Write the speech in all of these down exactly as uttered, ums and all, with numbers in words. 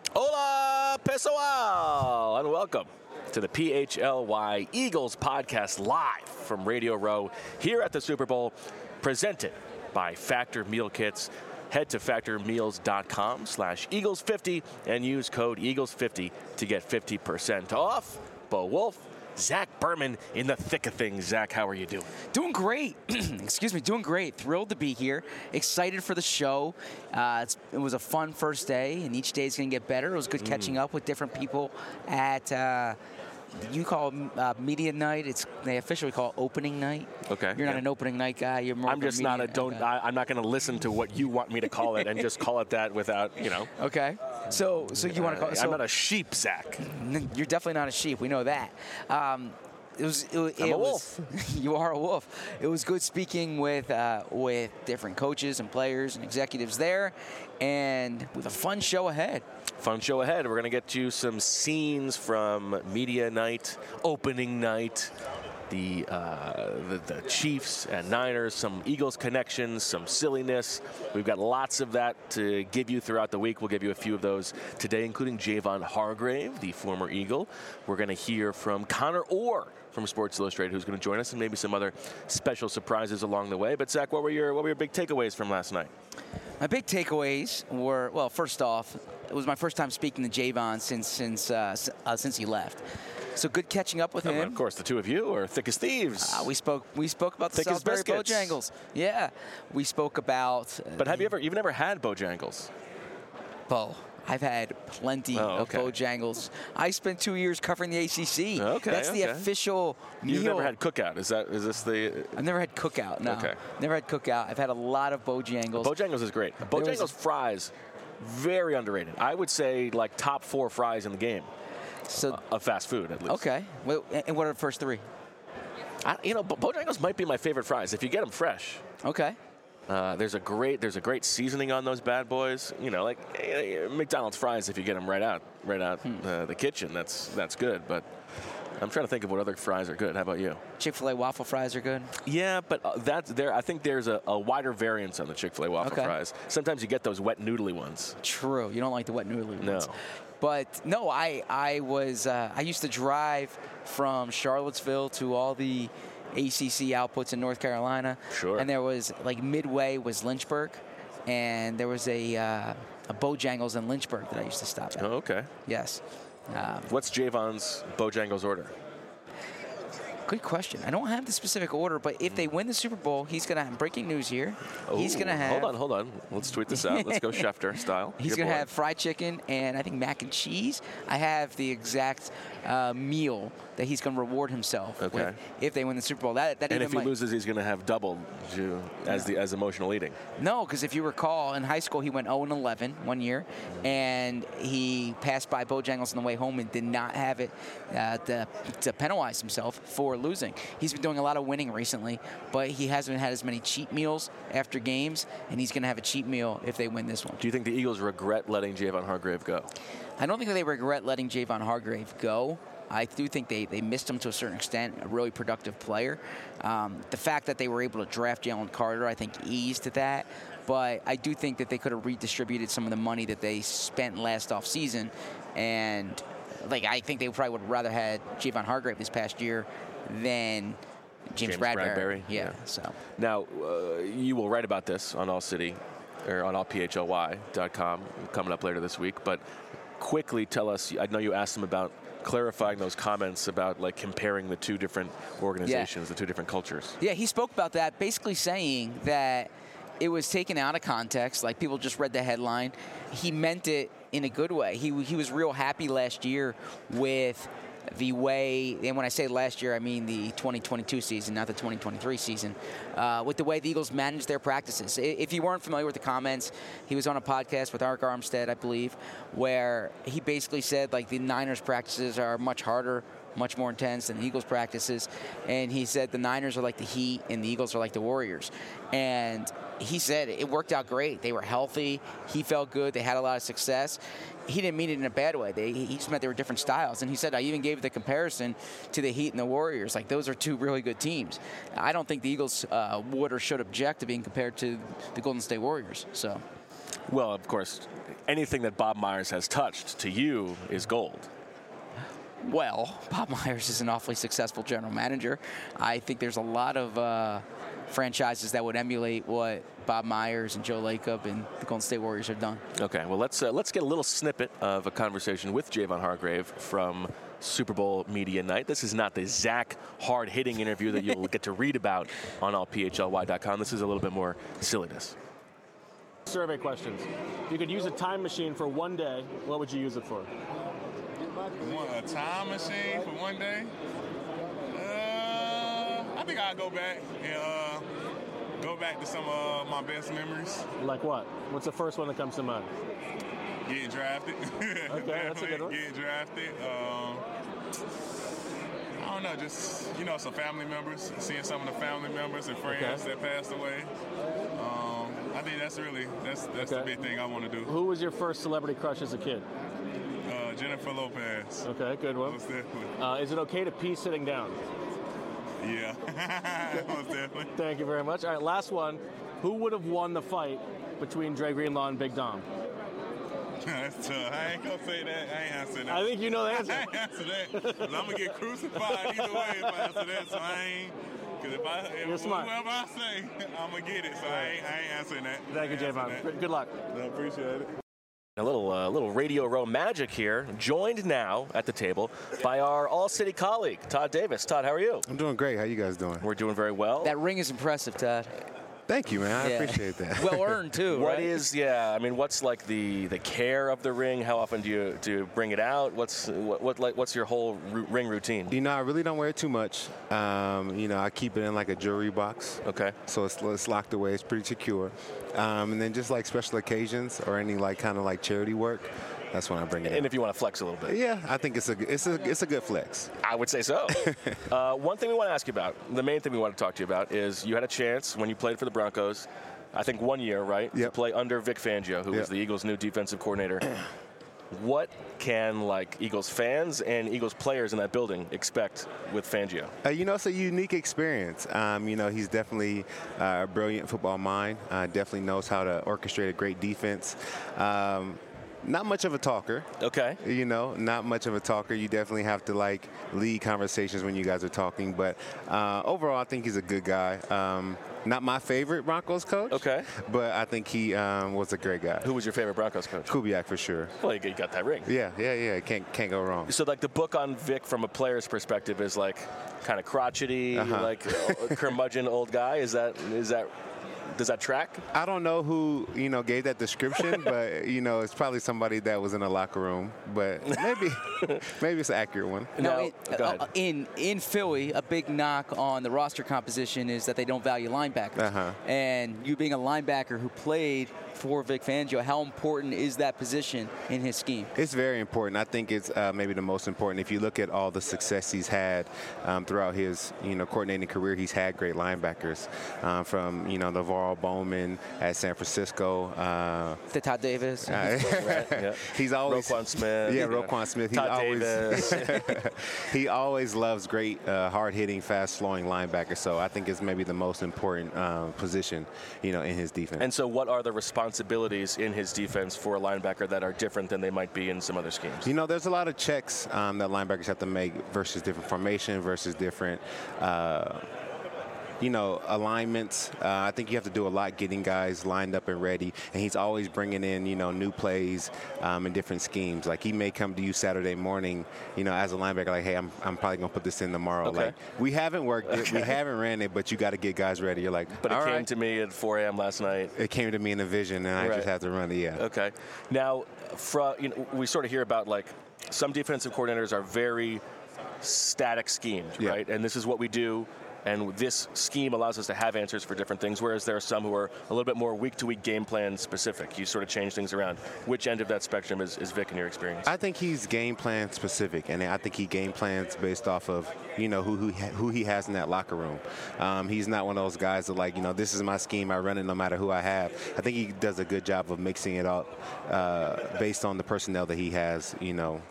Hola, pessoal, and welcome to the P H L Y Eagles podcast live from Radio Row here at the Super Bowl, presented by Factor Meal Kits. Head to factormeals.com slash Eagles fifty and use code Eagles fifty to get fifty percent off. Bo Wolf, Zach Berman in the thick of things. Zach, how are you doing? Doing great. Excuse me, doing great. Thrilled to be here. Excited for the show. Uh, it's, it was a fun first day, and each day is going to get better. It was good mm. catching up with different people at, uh, you call it uh, media night. It's they officially call it opening night. Okay. You're not yeah. an opening night guy. You're more. I'm just a not a don't. Okay. I, I'm not going to listen to what you want me to call it and just call it that without you know. Okay. So so you want to call it? So, I'm not a sheep, Zach. You're definitely not a sheep. We know that. Um, It was. It, I'm it a was, wolf. You are a wolf. It was good speaking with uh, with different coaches and players and executives there, and with a fun show ahead. Fun show ahead. We're going to get you some scenes from media night, opening night, the, uh, the the Chiefs and Niners, some Eagles connections, some silliness. We've got lots of that to give you throughout the week. We'll give you a few of those today, including Javon Hargrave, the former Eagle. We're going to hear from Connor Orr from Sports Illustrated, who's going to join us, and maybe some other special surprises along the way. But Zach, what were your what were your big takeaways from last night? My big takeaways were, well, first off, it was my first time speaking to Javon since since uh, uh, since he left. So good catching up with oh, him. Of course, the two of you are thick as thieves. Uh, we spoke. We spoke about the thick Salisbury Bojangles. Yeah, we spoke about. Uh, but have you ever? You've never had Bojangles? Bo. I've had plenty oh, okay. of Bojangles. I spent two years covering the A C C. Okay, That's okay. the official meal. You've never had Cookout? Is that is this the? I've never had Cookout. No. Okay. Never had Cookout. I've had a lot of Bojangles. Bojangles is great. Bojangles a, fries, very underrated. I would say like top four fries in the game. So uh, of fast food at least. Okay. Well, and what are the first three? I, you know, Bojangles might be my favorite fries if you get them fresh. Okay. Uh, there's a great there's a great seasoning on those bad boys. You know, like uh, McDonald's fries. If you get them right out right out hmm. uh, the kitchen, that's that's good. But I'm trying to think of what other fries are good. How about you? Chick-fil-A waffle fries are good. Yeah, but uh, that's there. I think there's a, a wider variance on the Chick-fil-A waffle okay. fries. Sometimes you get those wet noodly ones. True. You don't like the wet noodly ones. No. But no, I I was uh, I used to drive from Charlottesville to all the A C C outputs in North Carolina. Sure. And there was, like, midway was Lynchburg, and there was a, uh, a Bojangles in Lynchburg that I used to stop at. Oh, okay. Yes. Um, What's Javon's Bojangles order? Good question. I don't have the specific order, but if they win the Super Bowl, he's going to have breaking news here. Oh, he's going to have. Hold on, hold on. Let's tweet this out. Let's go Schefter style. He's going to have fried chicken and I think mac and cheese. I have the exact uh, meal that he's going to reward himself okay. with if they win the Super Bowl. That, that and if he might... loses, he's going to have double to, as no. the as emotional eating. No, because if you recall, in high school he went oh and eleven one year, and he passed by Bojangles on the way home and did not have it uh, to, to penalize himself for losing. He's been doing a lot of winning recently, but he hasn't had as many cheat meals after games, and he's going to have a cheat meal if they win this one. Do you think the Eagles regret letting Javon Hargrave go? I don't think that they regret letting Javon Hargrave go. I do think they, they missed him to a certain extent, a really productive player. Um, the fact that they were able to draft Jalen Carter, I think, eased that. But I do think that they could have redistributed some of the money that they spent last offseason. And, like, I think they probably would have rather had Javon Hargrave this past year than James, James Bradbury. Bradbury. Yeah, yeah. so. Now, uh, you will write about this on All City, or on all P H L Y dot com coming up later this week. But quickly tell us, I know you asked them about clarifying those comments about like comparing the two different organizations, yeah. the two different cultures. Yeah, he spoke about that, basically saying that it was taken out of context, like people just read the headline. He meant it in a good way. He he was real happy last year with the way, and when I say last year, I mean the twenty twenty-two season, not the twenty twenty-three season, uh, with the way the Eagles managed their practices. If you weren't familiar with the comments, he was on a podcast with Arik Armstead, I believe, where he basically said, like, the Niners practices are much harder, much more intense than the Eagles practices. And he said the Niners are like the Heat and the Eagles are like the Warriors. And he said it worked out great. They were healthy. He felt good. They had a lot of success. He didn't mean it in a bad way. They, he just meant they were different styles. And he said, I even gave the comparison to the Heat and the Warriors. Like, those are two really good teams. I don't think the Eagles uh, would or should object to being compared to the Golden State Warriors. So, Well, of course, anything that Bob Myers has touched to you is gold. Well, Bob Myers is an awfully successful general manager. I think there's a lot of uh, franchises that would emulate what Bob Myers and Joe Lacob and the Golden State Warriors have done. Okay, well, let's uh, let's get a little snippet of a conversation with Javon Hargrave from Super Bowl Media Night. This is not the Zach hard-hitting interview that you'll get to read about on all P H L Y dot com. This is a little bit more silliness. Survey questions. If you could use a time machine for one day, what would you use it for? One, a time machine for one day? Uh, I think I'll go back and uh, go back to some of my best memories. Like what? What's the first one that comes to mind? Getting drafted. Okay, that's a good one. Getting drafted. Um, I don't know, just, you know, some family members, seeing some of the family members and friends Okay. that passed away. Um, I think that's really, that's that's Okay. the big thing I want to do. Who was your first celebrity crush as a kid? Uh, Jennifer Lopez. Okay, good one. Most definitely. Uh, is it okay to pee sitting down? Yeah, most definitely. Thank you very much. All right, last one. Who would have won the fight between Dre Greenlaw and Big Dom? That's tough. I ain't gonna say that. I ain't answering that. I think you know the answer. I ain't answer that. 'Cause I'm gonna get crucified either way if I answer that. So I ain't. Because if I, if You're smart. whoever I say, I'm gonna get it. So I ain't, I ain't answering that. Thank you, I ain't answering Javon. that. Good luck. I appreciate it. A little uh, little Radio Row magic here, joined now at the table by our All-City colleague, Todd Davis. Todd, how are you? I'm doing great. How you guys doing? We're doing very well. That ring is impressive, Todd. Thank you, man. I Yeah. appreciate that. Well earned, too, What right? is, yeah, I mean, what's like the, the care of the ring? How often do you do you bring it out? What's what, what like what's your whole ru- ring routine? You know, I really don't wear it too much. Um, you know, I keep it in like a jewelry box. Okay. So it's, it's locked away. It's pretty secure. Um, and then just like special occasions or any like kind of like charity work, that's when I bring it And in. if you want to flex a little bit. Yeah, I think it's a it's a it's a good flex. I would say so. uh, one thing we want to ask you about, the main thing we want to talk to you about is you had a chance when you played for the Broncos, I think one year, right? Yep. To play under Vic Fangio, who was Yep. the Eagles' new defensive coordinator. What can like Eagles fans and Eagles players in that building expect with Fangio? Uh, you know, it's a unique experience. Um, you know, he's definitely uh, a brilliant football mind. Uh, definitely knows how to orchestrate a great defense. Um, not much of a talker. Okay. You know, not much of a talker. You definitely have to like lead conversations when you guys are talking. But uh, overall, I think he's a good guy. Um, not my favorite Broncos coach. Okay. But I think he um, was a great guy. Who was your favorite Broncos coach? Kubiak for sure. Well, you got that ring. Yeah, yeah, yeah. Can't can't go wrong. So, like, the book on Vic from a player's perspective is like kind of crotchety, Uh-huh. like uh, curmudgeon old guy. Is that is that does that track? I don't know who, you know, gave that description, but, you know, it's probably somebody that was in a locker room. But maybe maybe it's an accurate one. Now, No, in, go ahead. uh, in in Philly, a big knock on the roster composition is that they don't value linebackers. Uh-huh. And you being a linebacker who played for Vic Fangio, how important is that position in his scheme? It's very important. I think it's uh, maybe the most important. If you look at all the success he's had um, throughout his, you know, coordinating career, he's had great linebackers um, from, you know, Navarro Bowman at San Francisco. Uh, To Todd Davis. Right, yeah. he's always Roquan Smith. Yeah, Roquan Smith. He Todd always Davis. he always loves great, uh, hard-hitting, fast-flowing linebackers. So I think it's maybe the most important uh, position, you know, in his defense. And so, what are the responsibilities in his defense for a linebacker that are different than they might be in some other schemes? You know, there's a lot of checks um, that linebackers have to make versus different formation versus different, uh, you know, alignments. Uh, I think you have to do a lot getting guys lined up and ready. And he's always bringing in, you know, new plays um, and different schemes. Like, he may come to you Saturday morning, you know, as a linebacker, like, hey, I'm, I'm probably going to put this in tomorrow. Okay. Like, we haven't worked it. Okay. We haven't ran it, but you got to get guys ready. You're like, But it all came right. to me at four a.m. last night. It came to me in a vision, and I Right. just had to run it, yeah. Okay. Now, from, you know, we sort of hear about, like, some defensive coordinators are very static schemed, Yeah. right? And this is what we do. And this scheme allows us to have answers for different things, whereas there are some who are a little bit more week-to-week game plan specific. You sort of change things around. Which end of that spectrum is, is Vic in your experience? I think he's game plan specific, and I think he game plans based off of, you know, who who, who he has in that locker room. Um, he's not one of those guys that, like, you know, this is my scheme, I run it no matter who I have. I think he does a good job of mixing it up uh, based on the personnel that he has, you know,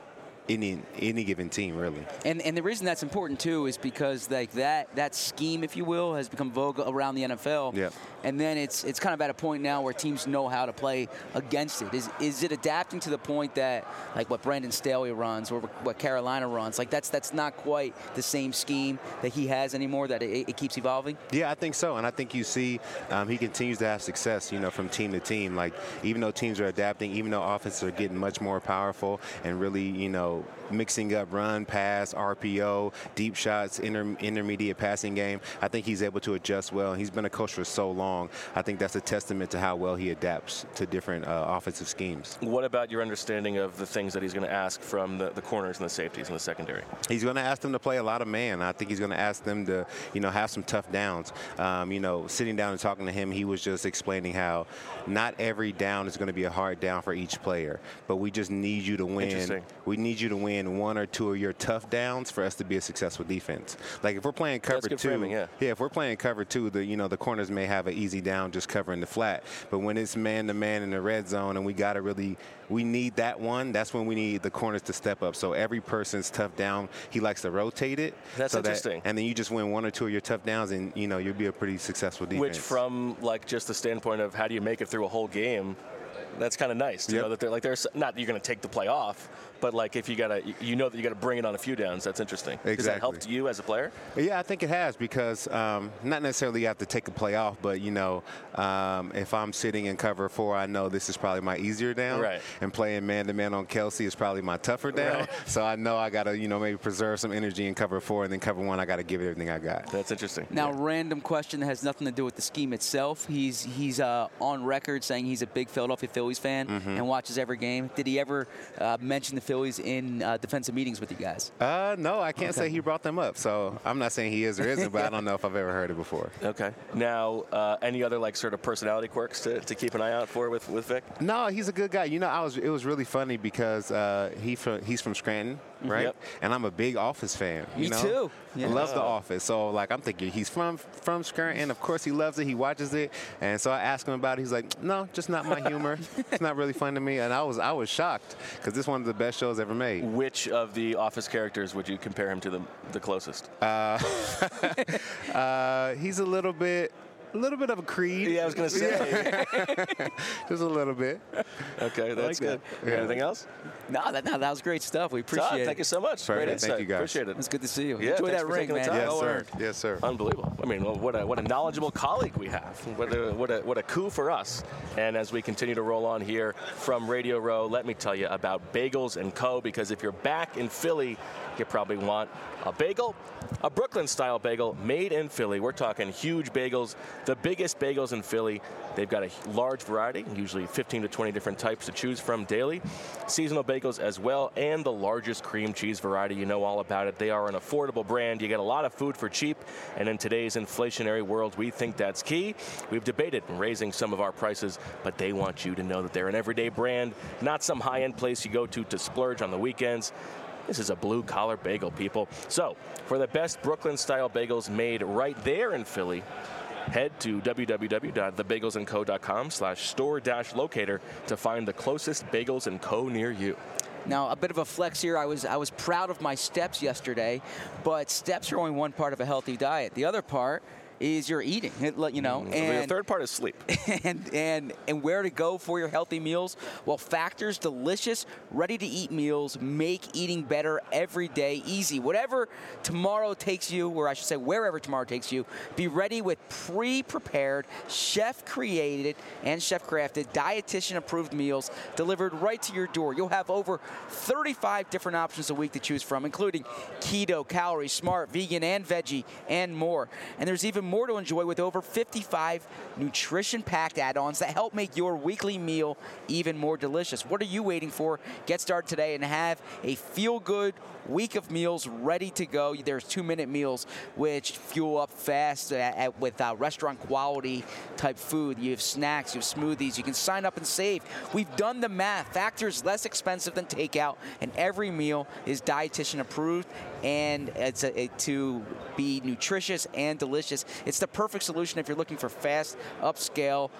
any any given team, really. And and the reason that's important too is because like that that scheme, if you will, has become vogue around the N F L. Yeah. And then it's it's kind of at a point now where teams know how to play against it. Is is it adapting to the point that like what Brandon Staley runs or what Carolina runs? Like that's that's not quite the same scheme that he has anymore. That it, it keeps evolving. Yeah, I think so, and I think you see um, he continues to have success. You know, from team to team. Like even though teams are adapting, even though offenses are getting much more powerful and really, you know, mixing up run, pass, R P O, deep shots, inter- intermediate passing game, I think he's able to adjust well. He's been a coach for so long. I think that's a testament to how well he adapts to different uh, offensive schemes. What about your understanding of the things that he's going to ask from the, the corners and the safeties and the secondary? He's going to ask them to play a lot of man. I think he's going to ask them to, you know, have some tough downs. Um, you know, sitting down and talking to him, he was just explaining how not every down is going to be a hard down for each player, but we just need you to win. We need you to win one or two of your tough downs for us to be a successful defense. Like if we're playing cover That's good two, framing, yeah. yeah, if we're playing cover two, the you know the corners may have an easy down just covering the flat, but when it's man to man in the red zone and we got to really we need that one, that's when we need the corners to step up. So every person's tough down, he likes to rotate it. That's so interesting. That, and then you just win one or two of your tough downs, and you know you'll be a pretty successful defense. Which, from like just the standpoint of how do you make it through a whole game, that's kind of nice to yep. know that they're like there's not that you're going to take the play off, but like if you gotta you know that you got to bring it on a few downs. That's interesting. Exactly. Does that help you as a player? Yeah, I think it has because um, not necessarily you have to take a play off, but you know um, if I'm sitting in cover four, I know this is probably my easier down, right. and playing man to man on Kelsey is probably my tougher down. Right. So I know I got to you know maybe preserve some energy in cover four, and then cover one I got to give it everything I got. That's interesting. Now, yeah. random question that has nothing to do with the scheme itself. He's he's uh, on record saying he's a big Philadelphia Phillies fan mm-hmm. and watches every game. Did he ever uh, mention the Phillies in uh, defensive meetings with you guys? Uh, no, I can't okay. say he brought them up. So I'm not saying he is or isn't, but I don't know if I've ever heard it before. Okay. Now, uh, any other like sort of personality quirks to, to keep an eye out for with, with Vic? No, he's a good guy. You know, I was it was really funny because uh, he from he's from Scranton, right? Yep. And I'm a big Office fan. You Me know? too. I Yeah. love The Office. So like I'm thinking he's from from Scranton. Of course he loves it. He watches it. And so I asked him about it. He's like, no, just not my humor. It's not really fun to me. And I was I was shocked because this is one of the best shows ever made. Which of the Office characters would you compare him to the the closest? Uh, uh, he's a little bit. A little bit of a Creed. Yeah, I was going to say. Just a little bit. Okay, that's like good. that. Yeah. Anything else? No, that, no, that was great stuff. We appreciate Todd, it. thank you so much. Perfect. Great Thank insight. you, guys. Appreciate it. It's good to see you. Yeah, Enjoy thanks that for ring, taking the man. time. Yes, Well sir. earned. Yes, sir. Unbelievable. I mean, well, what a what a knowledgeable colleague we have. What a what a what a coup for us. And as we continue to roll on here from Radio Row, let me tell you about Bagels and Co. Because if you're back in Philly, you probably want a bagel, a Brooklyn-style bagel made in Philly. We're talking huge bagels, the biggest bagels in Philly. They've got a large variety, usually fifteen to twenty different types to choose from daily. Seasonal bagels as well, and the largest cream cheese variety. You know all about it. They are an affordable brand. You get a lot of food for cheap, and in today's inflationary world, we think that's key. We've debated raising some of our prices, but they want you to know that they're an everyday brand, not some high-end place you go to to splurge on the weekends. This is a blue-collar bagel, people. So, for the best Brooklyn-style bagels made right there in Philly, head to w w w dot the bagels and co dot com slash store dash locator to find the closest Bagels and Co. near you. Now, a bit of a flex here. I was I was proud of my steps yesterday, but steps are only one part of a healthy diet. The other part is your eating, you know. Mm, and the third part is sleep. And, and and where to go for your healthy meals? Well, Factor's delicious, ready-to-eat meals make eating better every day easy. Whatever tomorrow takes you, or I should say wherever tomorrow takes you, be ready with pre-prepared, chef-created, and chef-crafted, dietitian-approved meals delivered right to your door. You'll have over thirty-five different options a week to choose from, including keto, calorie, smart, vegan, and veggie, and more. And there's even more to enjoy with over fifty-five nutrition-packed add-ons that help make your weekly meal even more delicious. What are you waiting for? Get started today and have a feel-good week of meals ready to go. There's two-minute meals, which fuel up fast at, at, with uh, restaurant-quality type food. You have snacks, you have smoothies. You can sign up and save. We've done the math. Factor is less expensive than takeout, and every meal is dietitian-approved, and it's a, it, to be nutritious and delicious. It's the perfect solution if you're looking for fast, upscale,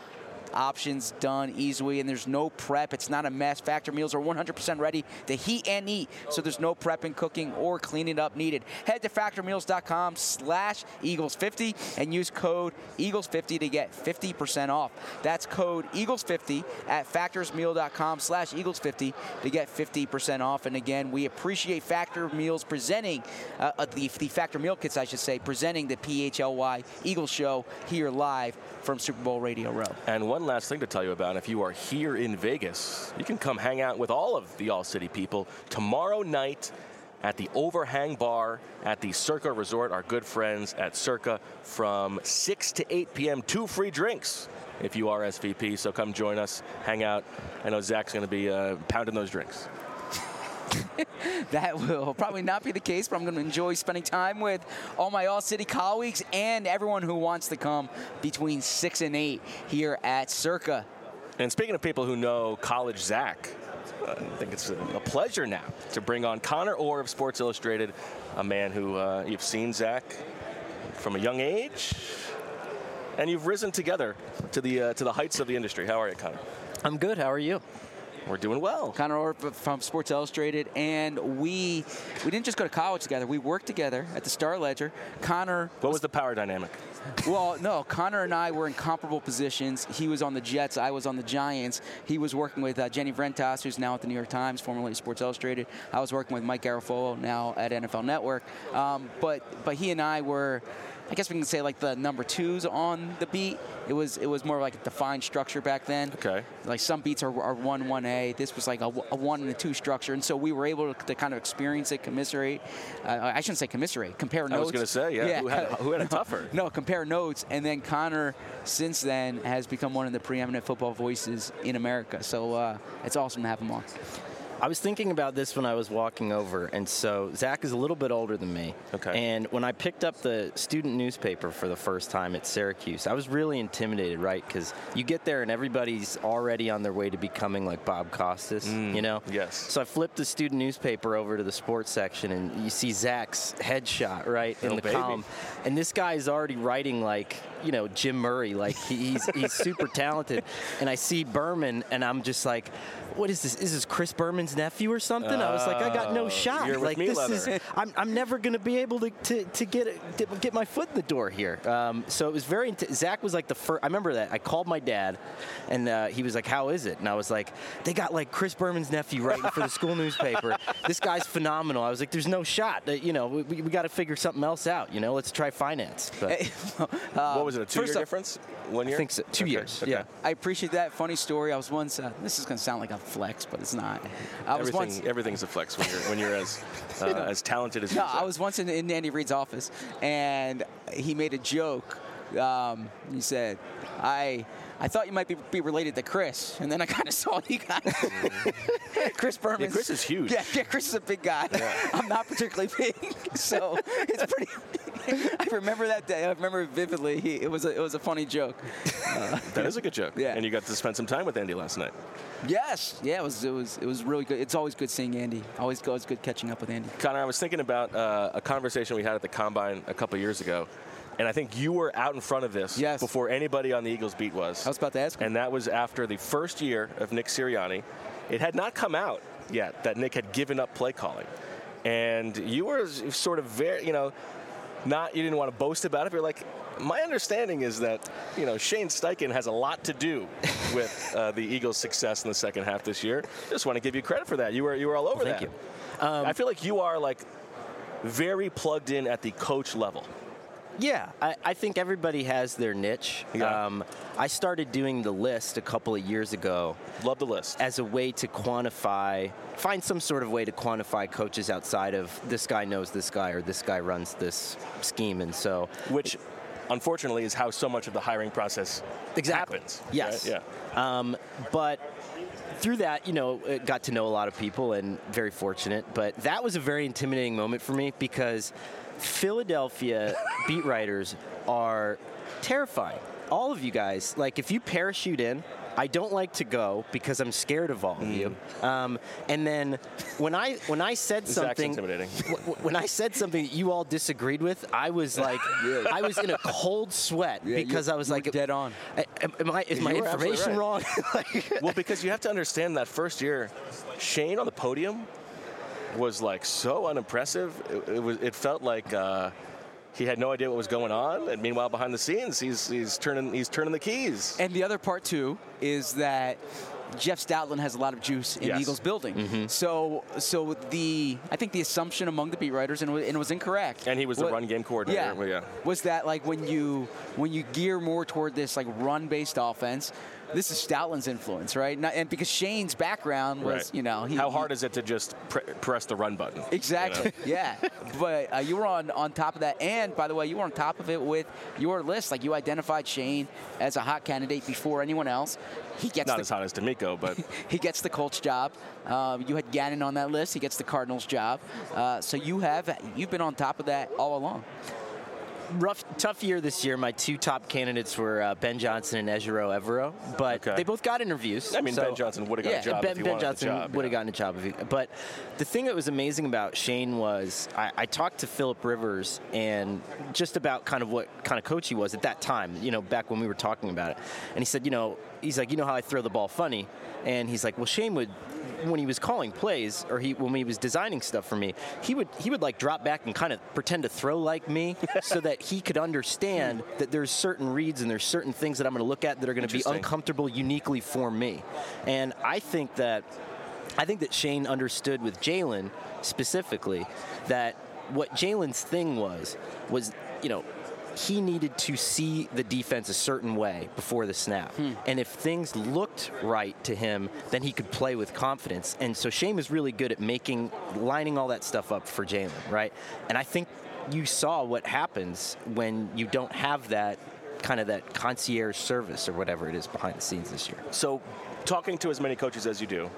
options done easily, and there's no prep. It's not a mess. Factor meals are one hundred percent ready to heat and eat, so there's no prepping, cooking, or cleaning up needed. Head to factor meals dot com slash Eagles fifty and use code Eagles fifty to get fifty percent off. That's code Eagles fifty at factors meal dot com slash Eagles fifty to get fifty percent off. And again, we appreciate Factor Meals presenting, uh, the, the Factor Meal Kits, I should say, presenting the P H L Y Eagles Show here live from Super Bowl Radio Row. And one last thing to tell you about, if you are here in Vegas, you can come hang out with all of the All-City people tomorrow night at the Overhang Bar at the Circa Resort, our good friends at Circa, from six to eight p.m. Two free drinks if you are S V P, so come join us, hang out. I know Zach's going to be uh, pounding those drinks. That will probably not be the case, but I'm going to enjoy spending time with all my All-City colleagues and everyone who wants to come between six and eight here at Circa. And speaking of people who know College Zach, I think it's a, a pleasure now to bring on Connor Orr of Sports Illustrated, a man who uh, you've seen, Zach, from a young age, and you've risen together to the uh, to the heights of the industry. How are you, Connor? I'm good. How are you? We're doing well. Connor Orr from Sports Illustrated, and we we didn't just go to college together. We worked together at the Star Ledger. Connor. What was the power dynamic? Well, no, Connor and I were in comparable positions. He was on the Jets. I was on the Giants. He was working with uh, Jenny Vrentas, who's now at the New York Times, formerly Sports Illustrated. I was working with Mike Garafolo, now at N F L Network. Um, but but he and I were, I guess we can say, like the number twos on the beat. It was it was more like a defined structure back then. Okay. Like some beats are, are one, one A. This was like a, a one and a two structure. And so we were able to, to kind of experience it, commiserate. Uh, I shouldn't say commiserate, compare notes. I was going to say, yeah. yeah. Who, had, who had a tougher? No, compare notes. And then Connor, since then, has become one of the preeminent football voices in America. So uh, it's awesome to have him on. I was thinking about this when I was walking over, and so Zach is a little bit older than me. Okay. And when I picked up the student newspaper for the first time at Syracuse, I was really intimidated, right? Because you get there and everybody's already on their way to becoming like Bob Costas, Mm, you know? yes. So I flipped the student newspaper over to the sports section, and you see Zach's headshot, right, in Oh, the baby. column. And this guy is already writing like, you know, Jim Murray. Like, he, he's, he's super talented. And I see Berman, and I'm just like, what is this? Is this Chris Berman's nephew or something? I was like, I got no Oh, shot. you're with like me, this Leather. is, I'm, I'm never going to be able to, to, to get it, to get my foot in the door here. Um, so it was very. Int- Zach was like the first. I remember that I called my dad, and uh, he was like, "How is it?" And I was like, "They got like Chris Berman's nephew writing for the school newspaper. This guy's phenomenal." I was like, "There's no shot. Uh, you know, we, we got to figure something else out. You know, let's try finance." But what was it, a two-year first off- difference? One year? I think so. Two Okay, years. okay. Yeah. I appreciate that. Funny story. I was once, uh, this is going to sound like a flex, but it's not. I was Everything, once. everything's a flex when you're when you're as uh, as talented as you No, are. I was once in, in Andy Reid's office, and he made a joke. Um, he said, I I thought you might be, be related to Chris, and then I kind of saw you guys. Chris Berman. Yeah, Chris is huge. Yeah, yeah, Chris is a big guy. I'm not particularly big, so it's pretty. I remember that day. I remember it vividly. He, it was a, it was a funny joke. Uh, That is a good joke. Yeah. And you got to spend some time with Andy last night. yes, yeah, it was it was it was really good. It's always good seeing Andy. Always always good catching up with Andy. Connor, I was thinking about uh, a conversation we had at the Combine a couple years ago, and I think you were out in front of this Yes. before anybody on the Eagles beat was. I was about to ask him. And that was after the first year of Nick Sirianni. It had not come out yet that Nick had given up play calling. And you were sort of very, you know, not, you didn't want to boast about it, but you're like, my understanding is that, you know, Shane Steichen has a lot to do with uh, the Eagles' success in the second half this year. Just want to give you credit for that. You were you were all over Well, that. thank you. Um, I feel like you are like very plugged in at the coach level. Yeah, I, I think everybody has their niche. Yeah. Um, I started doing the list a couple of years ago Love the list. as a way to quantify, find some sort of way to quantify coaches outside of this guy knows this guy or this guy runs this scheme. And so, Which, unfortunately, is how so much of the hiring process Exactly. happens. Yes. right? Yeah. Um, but through that, you know, uh, got to know a lot of people and very fortunate. But that was a very intimidating moment for me because Philadelphia beat writers are terrifying. All of you guys, like if you parachute in, I don't like to go because I'm scared of all of you. Um, and then when I when I said Zach's something, intimidating. w- when I said something that you all disagreed with, I was like, I was in a cold sweat Yeah, because you- I was you were like, dead on. I- Am, am I, is my You were absolutely information right. wrong? Like, Well, because you have to understand that first year, Shane on the podium was like so unimpressive. It, it was. It felt like uh, he had no idea what was going on, and meanwhile, behind the scenes, he's he's turning he's turning the keys. And the other part too is that Jeff Stoutland has a lot of juice in Yes. the Eagles building. So, so the I think the assumption among the beat writers, and, it wa- and it was incorrect. And he was the wa- run game coordinator. Yeah, Well, yeah. was that like when you when you gear more toward this like run-based offense, this is Stoutland's influence, right? Not, and because Shane's background was, Right. you know, he, How he- hard is it to just pre- press the run button? Exactly. Yeah. But uh, you were on, on top of that. And, by the way, you were on top of it with your list. Like, you identified Shane as a hot candidate before anyone else. He gets Not the, as hot as D'Amico, but he gets the Colts job. Um, you had Gannon on that list. He gets the Cardinals job. Uh, so you have you've been on top of that all along. rough, tough year this year. My two top candidates were uh, Ben Johnson and Ejiro Evero, but Okay. they both got interviews. I mean, so- Ben Johnson would have got yeah, a job Ben, if he Ben wanted Johnson the job. would have yeah. gotten a job if he. But the thing that was amazing about Shane was I, I talked to Philip Rivers and just about kind of what kind of coach he was at that time. You know, back when we were talking about it, and he said, you know, he's like, you know how I throw the ball funny, and he's like, well, Shane would. When he was calling plays, or he when he was designing stuff for me, he would he would like drop back and kind of pretend to throw like me, so that he could understand that there's certain reads and there's certain things that I'm going to look at that are going to be Interesting. uncomfortable uniquely for me. And I think that I think that Shane understood with Jalen specifically that what Jalen's thing was was you know. He needed to see the defense a certain way before the snap. Hmm. And if things looked right to him, then he could play with confidence. And so Shane was really good at making, lining all that stuff up for Jalen, right? And I think you saw what happens when you don't have that kind of that concierge service or whatever it is behind the scenes this year. So, talking to as many coaches as you do,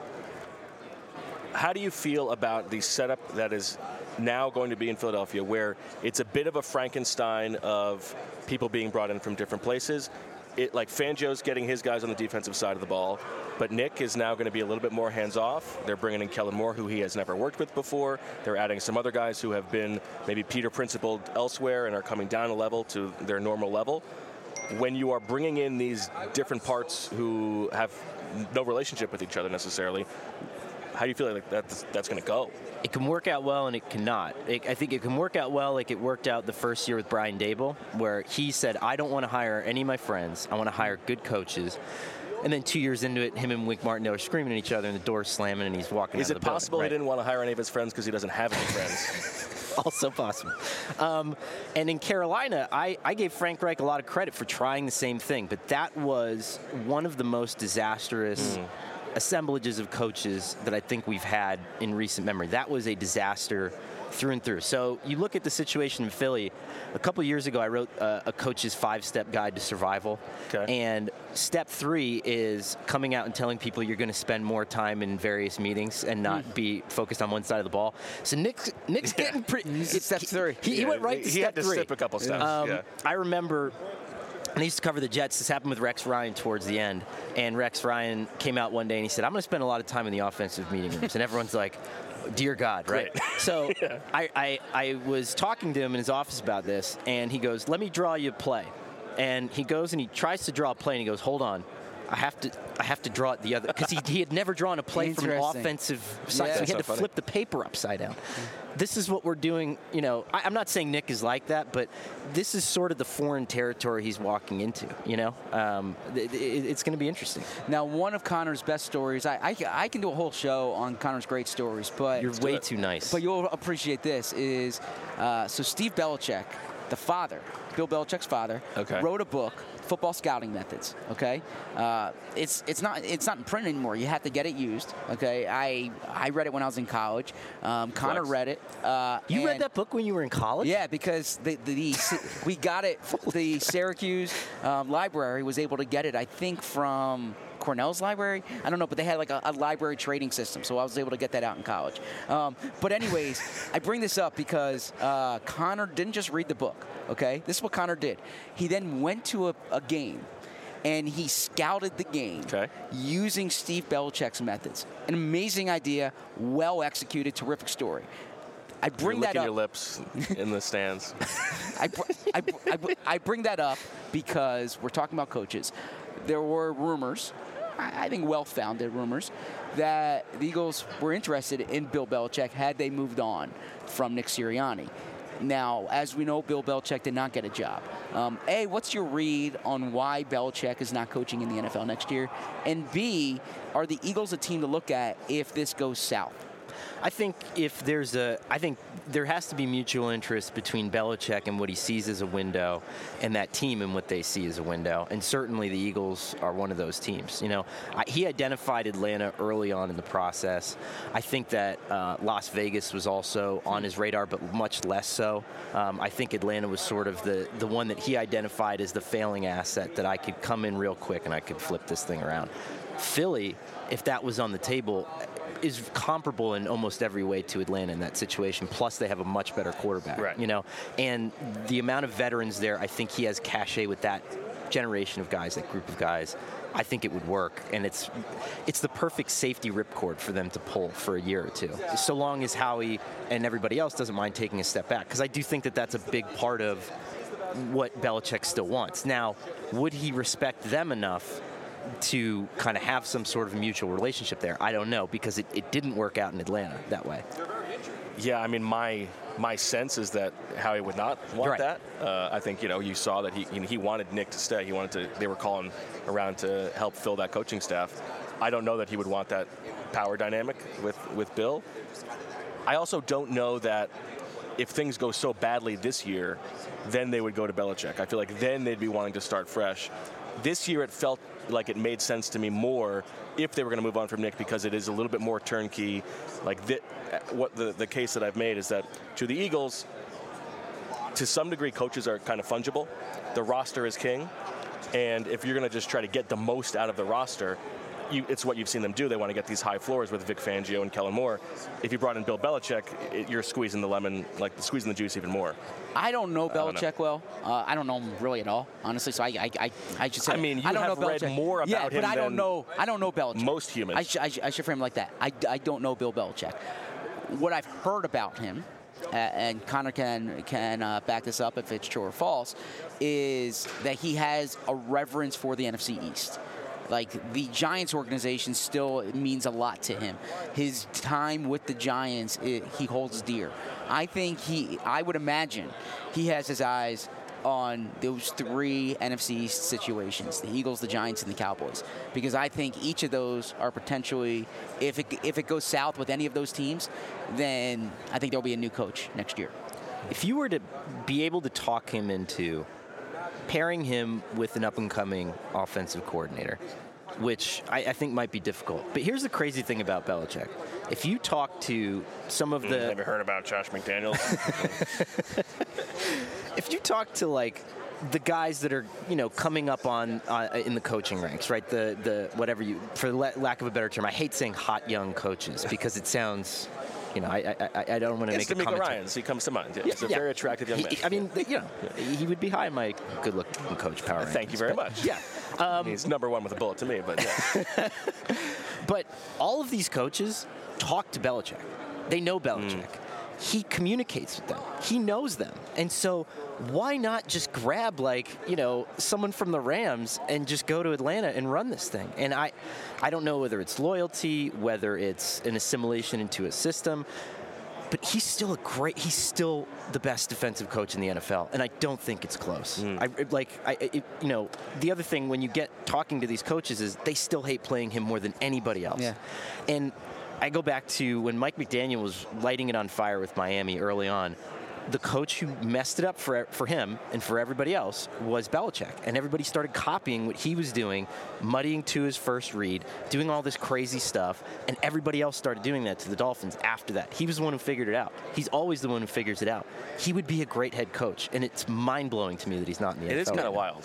how do you feel about the setup that is now going to be in Philadelphia, where it's a bit of a Frankenstein of people being brought in from different places? It, like Fangio's getting his guys on the defensive side of the ball, but Nick is now going to be a little bit more hands-off. They're bringing in Kellen Moore, who he has never worked with before. They're adding some other guys who have been maybe Peter principled elsewhere and are coming down a level to their normal level. When you are bringing in these different parts who have no relationship with each other necessarily, how do you feel like that's, that's going to go? It can work out well and it cannot. It, I think it can work out well like it worked out the first year with Brian Dable, where he said, I don't want to hire any of my friends. I want to hire good coaches. And then two years into it, him and Wink Martindale are screaming at each other and the door's slamming and he's walking Is out it of the building. possible Right. he didn't want to hire any of his friends because he doesn't have any friends? Also possible. Um, and in Carolina, I, I gave Frank Reich a lot of credit for trying the same thing, but that was one of the most disastrous Mm. assemblages of coaches that I think we've had in recent memory. That was a disaster through and through. So you look at the situation in Philly. A couple years ago, I wrote uh, a coach's five-step guide to survival. Okay. And step three is coming out and telling people you're going to spend more time in various meetings and not be focused on one side of the ball. So Nick's, Nick's getting pretty... It's step three. He, he Yeah, went right he- to he step had to three. skip a couple steps, Um, yeah. I remember... And I used to cover the Jets. This happened with Rex Ryan towards the end. And Rex Ryan came out one day and he said, I'm going to spend a lot of time in the offensive meeting rooms. And everyone's like, dear God, right? Great. So I, I, I was talking to him in his office about this, and he goes, let me draw you a play. And he goes and he tries to draw a play, and he goes, hold on. I have to I have to draw it the other, because he, he had never drawn a play from an Interesting. offensive side, Yeah. so he That's had to so funny. flip the paper upside down. This is what we're doing, you know, I, I'm not saying Nick is like that, but this is sort of the foreign territory he's walking into, you know? Um, it, it, it's going to be interesting. Now, one of Connor's best stories, I, I, I can do a whole show on Connor's great stories, but You're way too nice. But you'll appreciate this is, uh, so Steve Belichick, the father, Bill Belichick's father, Okay. wrote a book, Football Scouting Methods. Okay, uh, it's it's not it's not in print anymore. You have to get it used. Okay, I I read it when I was in college. Um, Connor Flex. read it. Uh, You read and- that book when you were in college? Yeah, because the, the, the we got it. The Syracuse um, library was able to get it, I think, from Cornell's library. I don't know, but they had like a, a library trading system, so I was able to get that out in college. Um, but anyways, I bring this up because uh, Connor didn't just read the book. Okay, this is what Connor did. He then went to a, a game. and he scouted the game Okay. using Steve Belichick's methods. An amazing idea, well executed, terrific story. I bring You're that licking up. your lips in the stands. I, br- I, br- I, br- I bring that up because we're talking about coaches. There were rumors, I I think well-founded rumors, that the Eagles were interested in Bill Belichick had they moved on from Nick Sirianni. Now, as we know, Bill Belichick did not get a job. Um, A, what's your read on why Belichick is not coaching in the N F L next year? And B, are the Eagles a team to look at if this goes south? I think if there's a, I think there has to be mutual interest between Belichick and what he sees as a window, and that team and what they see as a window. And certainly the Eagles are one of those teams. You know, I, he identified Atlanta early on in the process. I think that uh, Las Vegas was also on his radar, but much less so. Um, I think Atlanta was sort of the the one that he identified as the failing asset that I could come in real quick and I could flip this thing around. Philly, if that was on the table, is comparable in almost every way to Atlanta in that situation. Plus, they have a much better quarterback. Right. You know, and the amount of veterans there, I think he has cachet with that generation of guys, that group of guys. I think it would work, and it's it's the perfect safety ripcord for them to pull for a year or two, so long as Howie and everybody else doesn't mind taking a step back. Because I do think that that's a big part of what Belichick still wants. Now, would he respect them enough to kind of have some sort of mutual relationship there? I don't know, because it, it didn't work out in Atlanta that way. Yeah, I mean, my my sense is that Howie would not want Right. that. Uh, I think, you know, you saw that he you know, he wanted Nick to stay. He wanted to. They were calling around to help fill that coaching staff. I don't know that he would want that power dynamic with with Bill. I also don't know that if things go so badly this year, then they would go to Belichick. I feel like then they'd be wanting to start fresh. This year, it felt like it made sense to me more if they were going to move on from Nick, because it is a little bit more turnkey. Like the, what the, the case that I've made is that to the Eagles, to some degree, coaches are kind of fungible. The roster is king, and if you're going to just try to get the most out of the roster, you, it's what you've seen them do. They want to get these high floors with Vic Fangio and Kellen Moore. If you brought in Bill Belichick, it, you're squeezing the lemon, like squeezing the juice even more. I don't know I don't Belichick well. Uh, I don't know him really at all, honestly. So I, I, I, I just said I mean, you I don't have know read Belichick. more about yeah, him but I don't than know. I don't know Belichick. most humans. I, sh- I, sh- I should frame it like that. I, I don't know Bill Belichick. What I've heard about him, uh, and Connor can can uh, back this up if it's true or false, is that he has a reverence for the N F C East. Like, the Giants organization still means a lot to him. His time with the Giants, it, he holds dear. I think he, I would imagine, he has his eyes on those three N F C East situations, the Eagles, the Giants, and the Cowboys. Because I think each of those are potentially, if it, if it goes south with any of those teams, then I think there'll be a new coach next year. If you were to be able to talk him into pairing him with an up-and-coming offensive coordinator, which I, I think might be difficult. But here's the crazy thing about Belichick. If you talk to some of the... Mm, Ever heard about Josh McDaniels? If you talk to, like, the guys that are, you know, coming up on uh, in the coaching ranks, right? The, the whatever you... For la- lack of a better term, I hate saying hot young coaches because it sounds... You know, I I, I don't want to It's make a D'Amico comment. Ryans. He comes to mind. Yeah, Yeah, he's a yeah. very attractive young He- man. I mean, you know, he would be high in my good-looking coach power. Thank you rankings, very but- much. Yeah. Um, He's number one with a bullet to me, but yeah. But all of these coaches talk to Belichick. They know Belichick. He communicates with them. He knows them. And so why not just grab, like, you know, someone from the Rams and just go to Atlanta and run this thing? And I, I don't know whether it's loyalty, whether it's an assimilation into a system, but he's still a great, he's still the best defensive coach in the N F L, and I don't think it's close. I, like, I, it, you know, the other thing when you get talking to these coaches is they still hate playing him more than anybody else. Yeah. And I go back to when Mike McDaniel was lighting it on fire with Miami early on. The coach who messed it up for for him and for everybody else was Belichick. And everybody started copying what he was doing, muddying to his first read, doing all this crazy stuff, and everybody else started doing that to the Dolphins after that. He was the one who figured it out. He's always the one who figures it out. He would be a great head coach, and it's mind-blowing to me that he's not in the It N F L. is kind right of now. wild.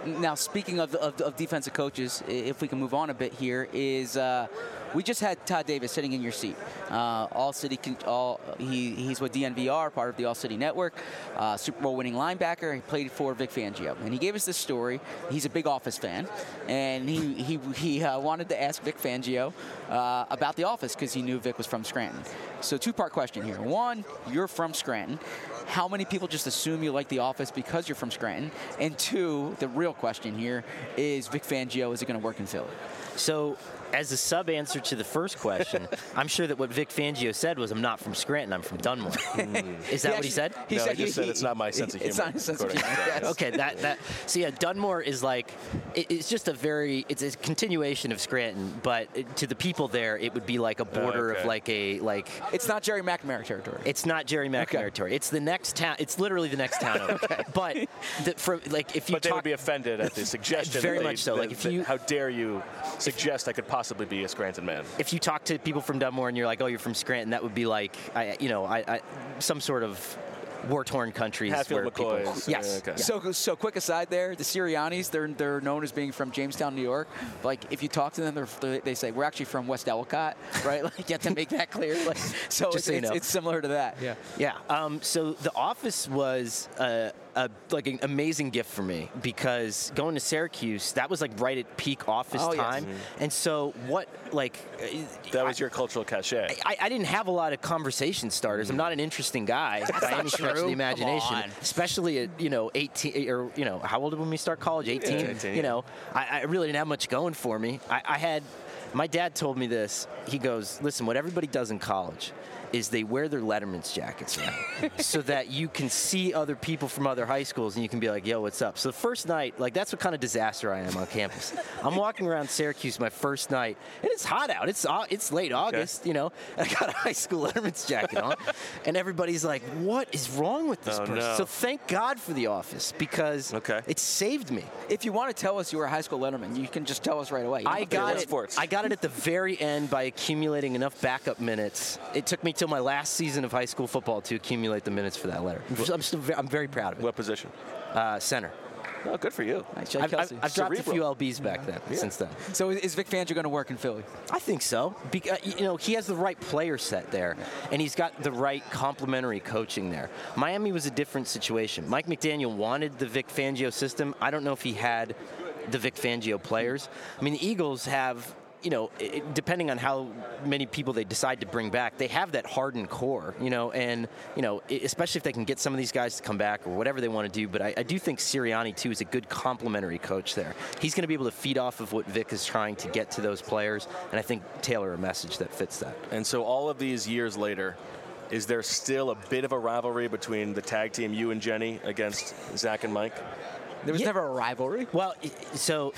now, speaking of, of, of defensive coaches, if we can move on a bit here, is uh, we just had Todd Davis sitting in your seat. Uh, all City, all he, he's with D N V R, part of the All City Network, uh, Super Bowl winning linebacker. He played for Vic Fangio, and he gave us this story. He's a big Office fan, and he he he uh, wanted to ask Vic Fangio uh, about The Office because he knew Vic was from Scranton. So, two-part question here. One, you're from Scranton. How many people just assume you like The Office because you're from Scranton? And two, the real question here is Vic Fangio, is it going to work in Philly? So, as a sub-answer to the first question, I'm sure that what Vic Fangio said was, I'm not from Scranton, I'm from Dunmore. Mm. Is that he what he said? He no, said he just said it's not my sense of humor. It's not his sense of humor. Yes. Okay, that, that, so yeah, Dunmore is like, it, it's just a very, it's a continuation of Scranton, but it, to the people there, it would be like a border okay. of like a, like. It's not Jerry McNamara territory. It's not Jerry McNamara Okay. territory. It's the next town, it's literally the next town over. Okay. But, the, from, like, if you But they talk, would be offended at the suggestion. Very that they- much so. that- Like, if that- you- how dare you suggest I could possibly be a Scranton man? if you talk to people from Dunmore and you're like, oh, you're from Scranton, that would be like, I, you know, I, I, some sort of war-torn countries Hatfield where people. McCoys. Yes. Uh, okay. So, so quick aside there, the Siriannis, they're they're known as being from Jamestown, New York. Like, if you talk to them, they're, they say we're actually from West Ellicott, right? Like, you have to make that clear. Like, so Just it's, so you it's, know. it's similar to that. Yeah. Yeah. Um, so The Office was uh, a, like an amazing gift for me because going to Syracuse, that was like right at peak Office Oh, yes. time, and so what like. That was I, your cultural cachet. I, I didn't have a lot of conversation starters. I'm not an interesting guy by any stretch of true. the imagination, Come on. especially at you know eighteen or you know how old did when we start college? eighteen. Yeah, eighteen. You know, I, I really didn't have much going for me. I, I had my dad told me this. He goes, "Listen, what everybody does in college is they wear their Letterman's jackets around so that you can see other people from other high schools and you can be like, yo, what's up?" So the first night, like that's what kind of disaster I am on campus. I'm walking around Syracuse my first night, and it's hot out. It's au- it's late August, you know. And I got a high school Letterman's jacket on, and everybody's like, what is wrong with this Oh, person? no. So thank God for The Office because Okay. it saved me. If you want to tell us you were a high school letterman, you can just tell us right away. You don't I have to got wait. it. sports? I got it at the very end by accumulating enough backup minutes. It took me till my last season of high school football to accumulate the minutes for that letter. I'm still very, I'm very proud of it. What position? Uh, center. Oh, good for you. Nice, Jay I've, I've, Kelsey. I've dropped a Cerebral. few L Bs back then. Since then, So is Vic Fangio going to work in Philly? I think so. Because you know he has the right player set there, and he's got the right complementary coaching there. Miami was a different situation. Mike McDaniel wanted the Vic Fangio system. I don't know if he had the Vic Fangio players. I mean, the Eagles have. You know, it, depending on how many people they decide to bring back, they have that hardened core, you know, and, you know, especially if they can get some of these guys to come back or whatever they want to do. But I, I do think Sirianni, too, is a good complementary coach there. He's going to be able to feed off of what Vic is trying to get to those players, and I think tailor a message that fits that. And so all of these years later, is there still a bit of a rivalry between the tag team, you and Jenny, against Zach and Mike? There was Yeah. never a rivalry. Well, so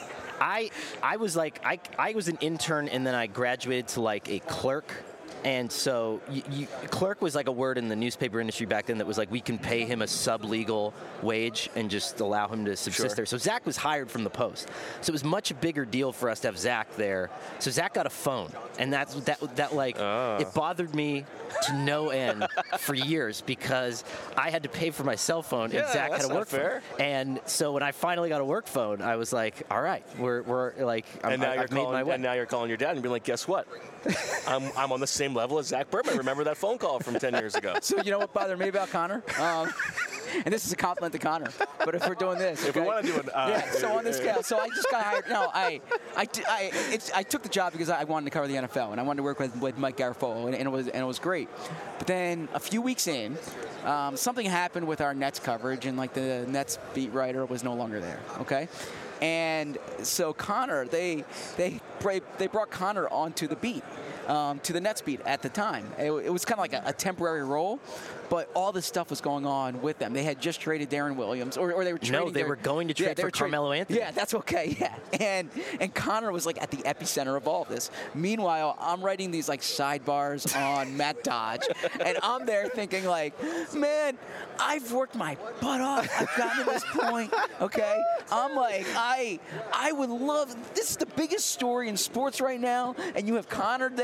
I I was like I I was an intern and then I graduated to like a clerk. And so you, you, clerk was like a word in the newspaper industry back then that was like we can pay him a sub-legal wage and just allow him to subsist Sure. there. So Zach was hired from the Post. So it was much a bigger deal for us to have Zach there. So Zach got a phone. And that's that that like Oh. it bothered me to no end for years because I had to pay for my cell phone Yeah, and Zach that's had a not work fair. phone. And so when I finally got a work phone, I was like, all right, we're, we're like, I'm, And now I've you're made my calling, way. and now you're calling your dad and being like, guess what? I'm I'm on the same level as Zach Berman. Remember that phone call from ten years ago? So you know what bothered me about Connor? Um, and this is a compliment to Connor. But if we're doing this, If we okay? want to do an, uh, Yeah, so on this scale, so I just got hired. No, I, I, I, it's, I took the job because I wanted to cover the N F L and I wanted to work with, with Mike Garafolo, and, and it was and it was great. But then a few weeks in, um, something happened with our Nets coverage, and like the Nets beat writer was no longer there. Okay. And so Connor, they they they brought Connor onto the beat, um, to the Nets beat at the time. It, it was kind of like a, a temporary role, but all this stuff was going on with them. They had just traded Darren Williams, or, or they were trading. No, they their- were going to yeah, trade they for were tra- Carmelo Anthony. Yeah, that's okay. Yeah, and and Connor was like at the epicenter of all of this. Meanwhile, I'm writing these like sidebars on Matt Dodge, and I'm there thinking like, man, I've worked my butt off. I've gotten to this point. Okay, I'm like, I I would love. This is the biggest story in sports right now, and you have Connor there.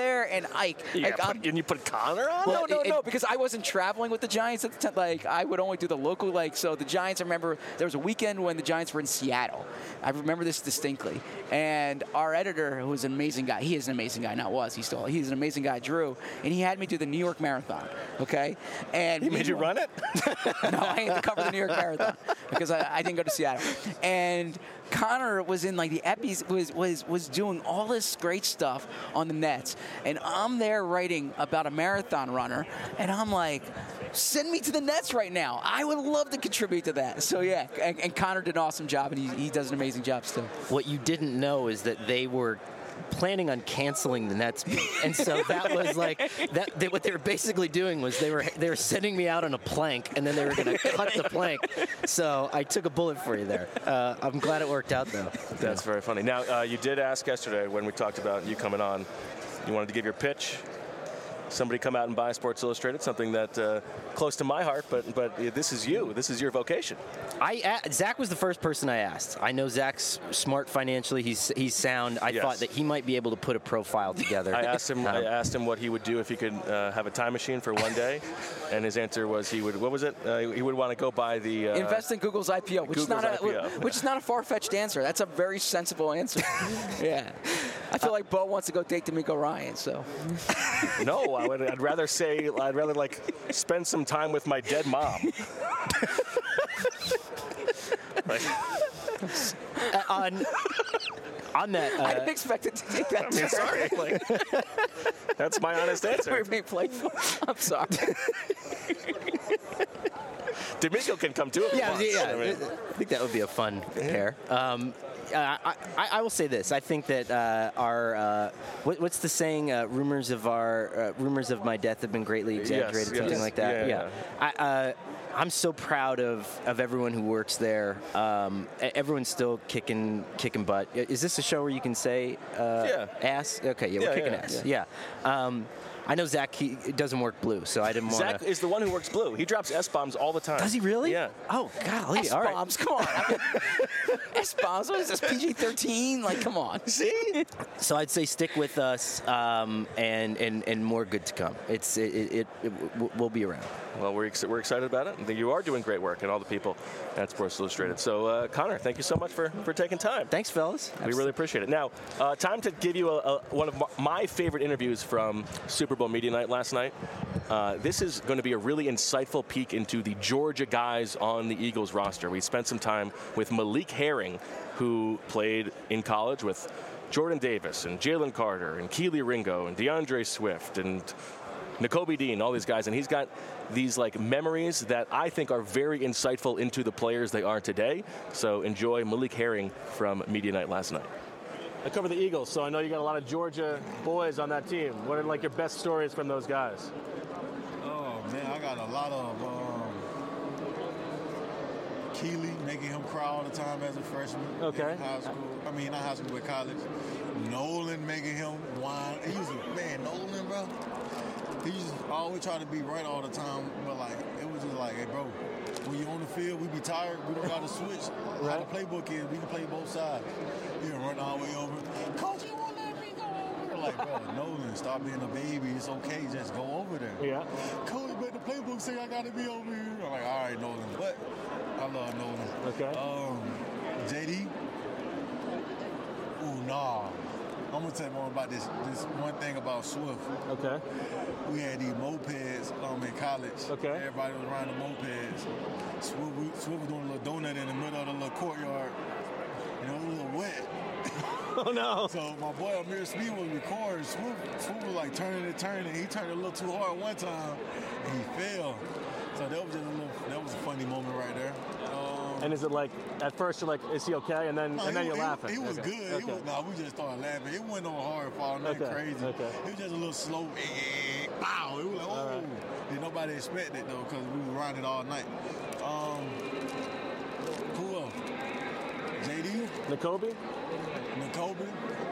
there, and Ike. You like, put, and you put Connor on? no, no, it- no, it- because I wasn't traveling with the Giants at the time. Like, I would only do the local, like, so the Giants, I remember there was a weekend when the Giants were in Seattle. I remember this distinctly. And our editor, who was an amazing guy, he is an amazing guy, not was, he still, he's an amazing guy, Drew, and he had me do the New York Marathon, okay? And He made you run it? no, I had to cover the New York Marathon because I, I didn't go to Seattle. And Connor was in like the Eppies, was was was doing all this great stuff on the Nets, and I'm there writing about a marathon runner, and I'm like, send me to the Nets right now. I would love to contribute to that. So yeah, and, and Connor did an awesome job, and he, he does an amazing job still. What you didn't know is that they were planning on canceling the Nets beat. And so that was like that they, what they were basically doing was they were they were sending me out on a plank, and then they were going to cut the plank. So I took a bullet for you there. Uh, I'm glad it worked out though. That's very funny. Now, uh, you did ask yesterday when we talked about you coming on, you wanted to give your pitch. Somebody come out and buy Sports Illustrated, something that uh, close to my heart, but but this is you. This is your vocation. I Zach was the first person I asked. I know Zach's smart financially. He's he's sound. I Yes. thought that he might be able to put a profile together. I asked him. Um, I asked him what he would do if he could uh, have a time machine for one day, and his answer was he would. What was it? Uh, he would want to go buy the. Uh, Invest in Google's I P O, which is Google's not a I P O. which is not a far-fetched answer. That's a very sensible answer. Yeah, I feel like Bo wants to go date D'Amico Ryan. So No, I would. I'd rather say. I'd rather like spend some time with my dead mom. Like, uh, on on that. I Uh, didn't expect it to take that. I mean, sorry. Like, that's my honest We're answer. being playful. I'm sorry. D'Amico can come too. If he Yeah, wants. yeah. I mean, I think that would be a fun pair. Um, uh, I, I, I will say this. I think that uh, our uh, what, what's the saying? Uh, rumors of our uh, rumors of my death have been greatly exaggerated. yes. Something like that. Yeah, I, uh, I'm so proud of, of everyone who works there. Um, e- everyone's still kicking kicking butt. Is this a show where you can say uh, Yeah. ass? Okay, yeah, Yeah, we're kicking yeah, ass. Yeah. Um, I know Zach. He it doesn't work blue, so I didn't want Zach to. is the one who works blue. He drops S bombs all the time. Does he really? Yeah. Oh, golly. All right. S-bombs, come on. I mean, S-bombs, what is this, P G thirteen? Like, come on. See? So I'd say stick with us, um, and, and and more good to come. It's it it, it, it w- we'll be around. Well, we're, ex- we're excited about it. I think you are doing great work, and all the people at Sports Illustrated. So, uh, Connor, thank you so much for, for taking time. Thanks, fellas. We really appreciate it. Now, uh, time to give you a, a, one of my favorite interviews from Super Bowl Media Night last night. Uh, this is going to be a really insightful peek into the Georgia guys on the Eagles roster. We spent some time with Malik Herring, who played in college with Jordan Davis and Jalen Carter and Keely Ringo and DeAndre Swift and Nakobe Dean, all these guys, and he's got these like memories that I think are very insightful into the players they are today. So enjoy Malik Herring from Media Night last night. I cover the Eagles, so I know you got a lot of Georgia boys on that team. What are like your best stories from those guys? Oh man, I got a lot of um, Keely making him cry all the time as a freshman. Okay. In high school. I mean, not high school, but college. Nolan making him whine. He used to, man, Nolan, bro. He used to always try to be right all the time, but like it was just like, hey, bro, when you on the field, we be tired. We don't got to switch. How the playbook is, we can play both sides. You can run all the way over. Coach, you won't let me go over. Like, bro, Nolan, stop being a baby. It's okay. Just go over there. Yeah. Coach, but the playbook say I got to be over here. I'm like, all right, Nolan. But I love Nolan. Okay. Um, J D. Ooh, nah. I'm gonna tell you more about this. This one thing about Swift. Okay. We had these mopeds um, in college. Okay. Everybody was riding the mopeds. Swift, we, Swift was doing a little donut in the middle of the little courtyard. You know, it was a little wet. Oh no. So my boy Amir Speed was recording. Swift, Swift was like turning and turning. He turned a little too hard one time, and he fell. So that was just a little. That was a funny moment right there. Um, And is it like at first you're like, is he okay? And then No, and then he, you're he, laughing. He was Okay. good. Okay. He was, nah, we just started laughing. It wasn't no hard fall, nothing Okay, crazy. okay. It was just a little slow. Eh, Wow. It was like, oh. right. Did nobody expect it though, because we were riding it all night. Um, who else? J D, Nakobe? Nakobe.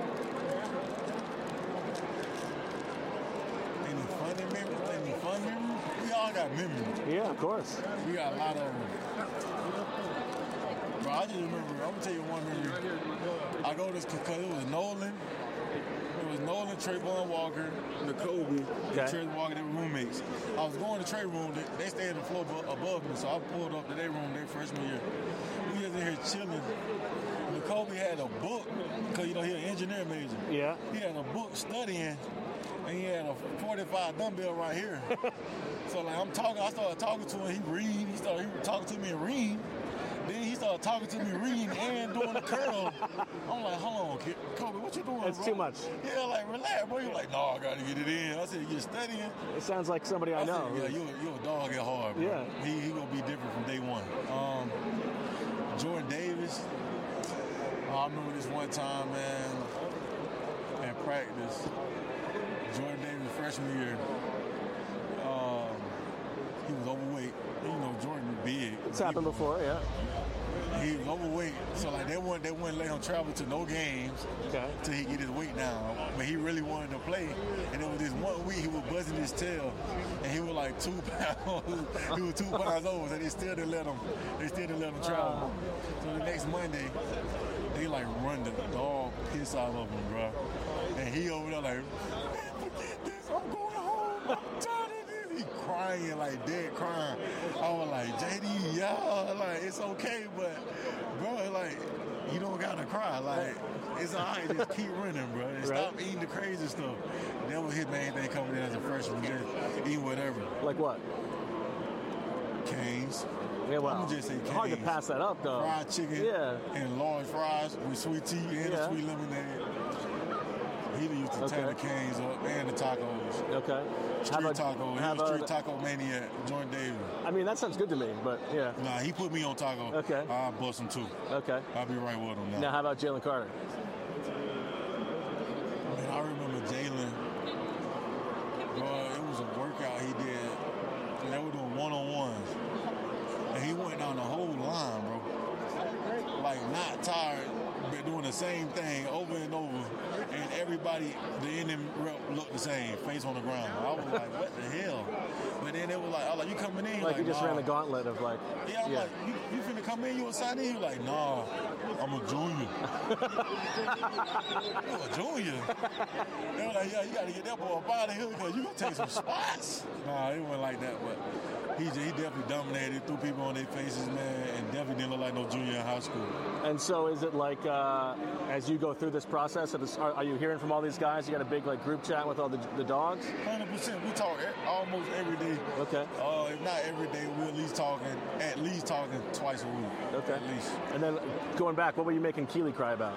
Any funny memories? Any fun memories? We all got memories. Yeah, of course. We got a lot of them. Bro, I just remember, I'm gonna tell you one memory. I go to this because it was Nolan, it was Nolan, Trayvon Walker, N'Kobe, Okay. and Trayvon Walker. They were roommates. I was going to Trey room. They, they stayed on the floor abo- above me, so I pulled up to their room their freshman year. We was in here chilling. N'Kobe had a book, because, you know, he an engineer major. Yeah. He had a book studying, and he had a forty-five dumbbell right here. So, like, I'm talking, I started talking to him, he read, he started he was talking to me and read. Then he started talking to me, reading and doing the curl. I'm like, hold on, kid. Kobe, what you doing, That's bro? too much. Yeah, like, relax, bro. You're like, no, I got to get it in. I said, you're studying? It sounds like somebody I, I know. said, yeah, you're, you're a dog at heart, bro. Yeah. He, he going to be different from day one. Um, Jordan Davis. I remember this one time, man, at practice. Jordan Davis, freshman year. Um, he was overweight. You know, Jordan was big. It's happened before, yeah. He was overweight, so like they wouldn't they wouldn't let him travel to no games Okay. till he get his weight down. But he really wanted to play, and it was this one week he was buzzing his tail, and he was like two pounds. He was two pounds over, so they still didn't let him. They still didn't let him travel. So the next Monday, they like run the dog piss out of him, bro. And he over there like, man, forget this. I'm going home. I'm tired of this. He crying like dead crying. I was like, J D, yeah, like it's okay, but bro, like you don't gotta cry. Like it's all right, just keep running, bro. And Right. stop eating the crazy stuff. That was his main thing coming in as a freshman, just eat whatever. Like what? Canes. Yeah, well, I'ma just say hard to Cane's. pass that up, though. Fried chicken Yeah. and large fries with sweet tea and Yeah. a sweet lemonade. He used to tear Okay. the canes up and the tacos. Okay. Street about- taco. He how was street about- taco maniac, Jordan Davis. I mean, that sounds good to me, but yeah. Nah, he put me on taco. Okay. I'll bust him too. Okay. I'll be right with him now. Now, how about Jalen Carter? Man, I remember Jalen. Bro, it was a workout he did. And they were doing one-on-ones. And he went down the whole line, bro. Like, not tired, but doing the same thing over and over. And everybody, the ending rep looked the same, face on the ground. I was like, what the hell? But then it was like, I was like, you coming in? Like, you just nah. ran the gauntlet of like, Yeah, I'm yeah. like, you, you finna come in, you a sign in? He was like, nah, I'm a junior. You a junior? They were like, yeah, you gotta get that boy up out of here because you gonna take some spots. Nah, it wasn't like that, but he, he definitely dominated, threw people on their faces, man, and definitely didn't look like no junior in high school. And so, is it like uh, as you go through this process, it is- are, are you hearing from all these guys? You got a big like group chat with all the, the dogs? one hundred percent. We talk e- almost every day. Okay. Uh, if not every day, we're at least talking, at least talking twice a week. Okay. At least. And then going back, what were you making Keely cry about?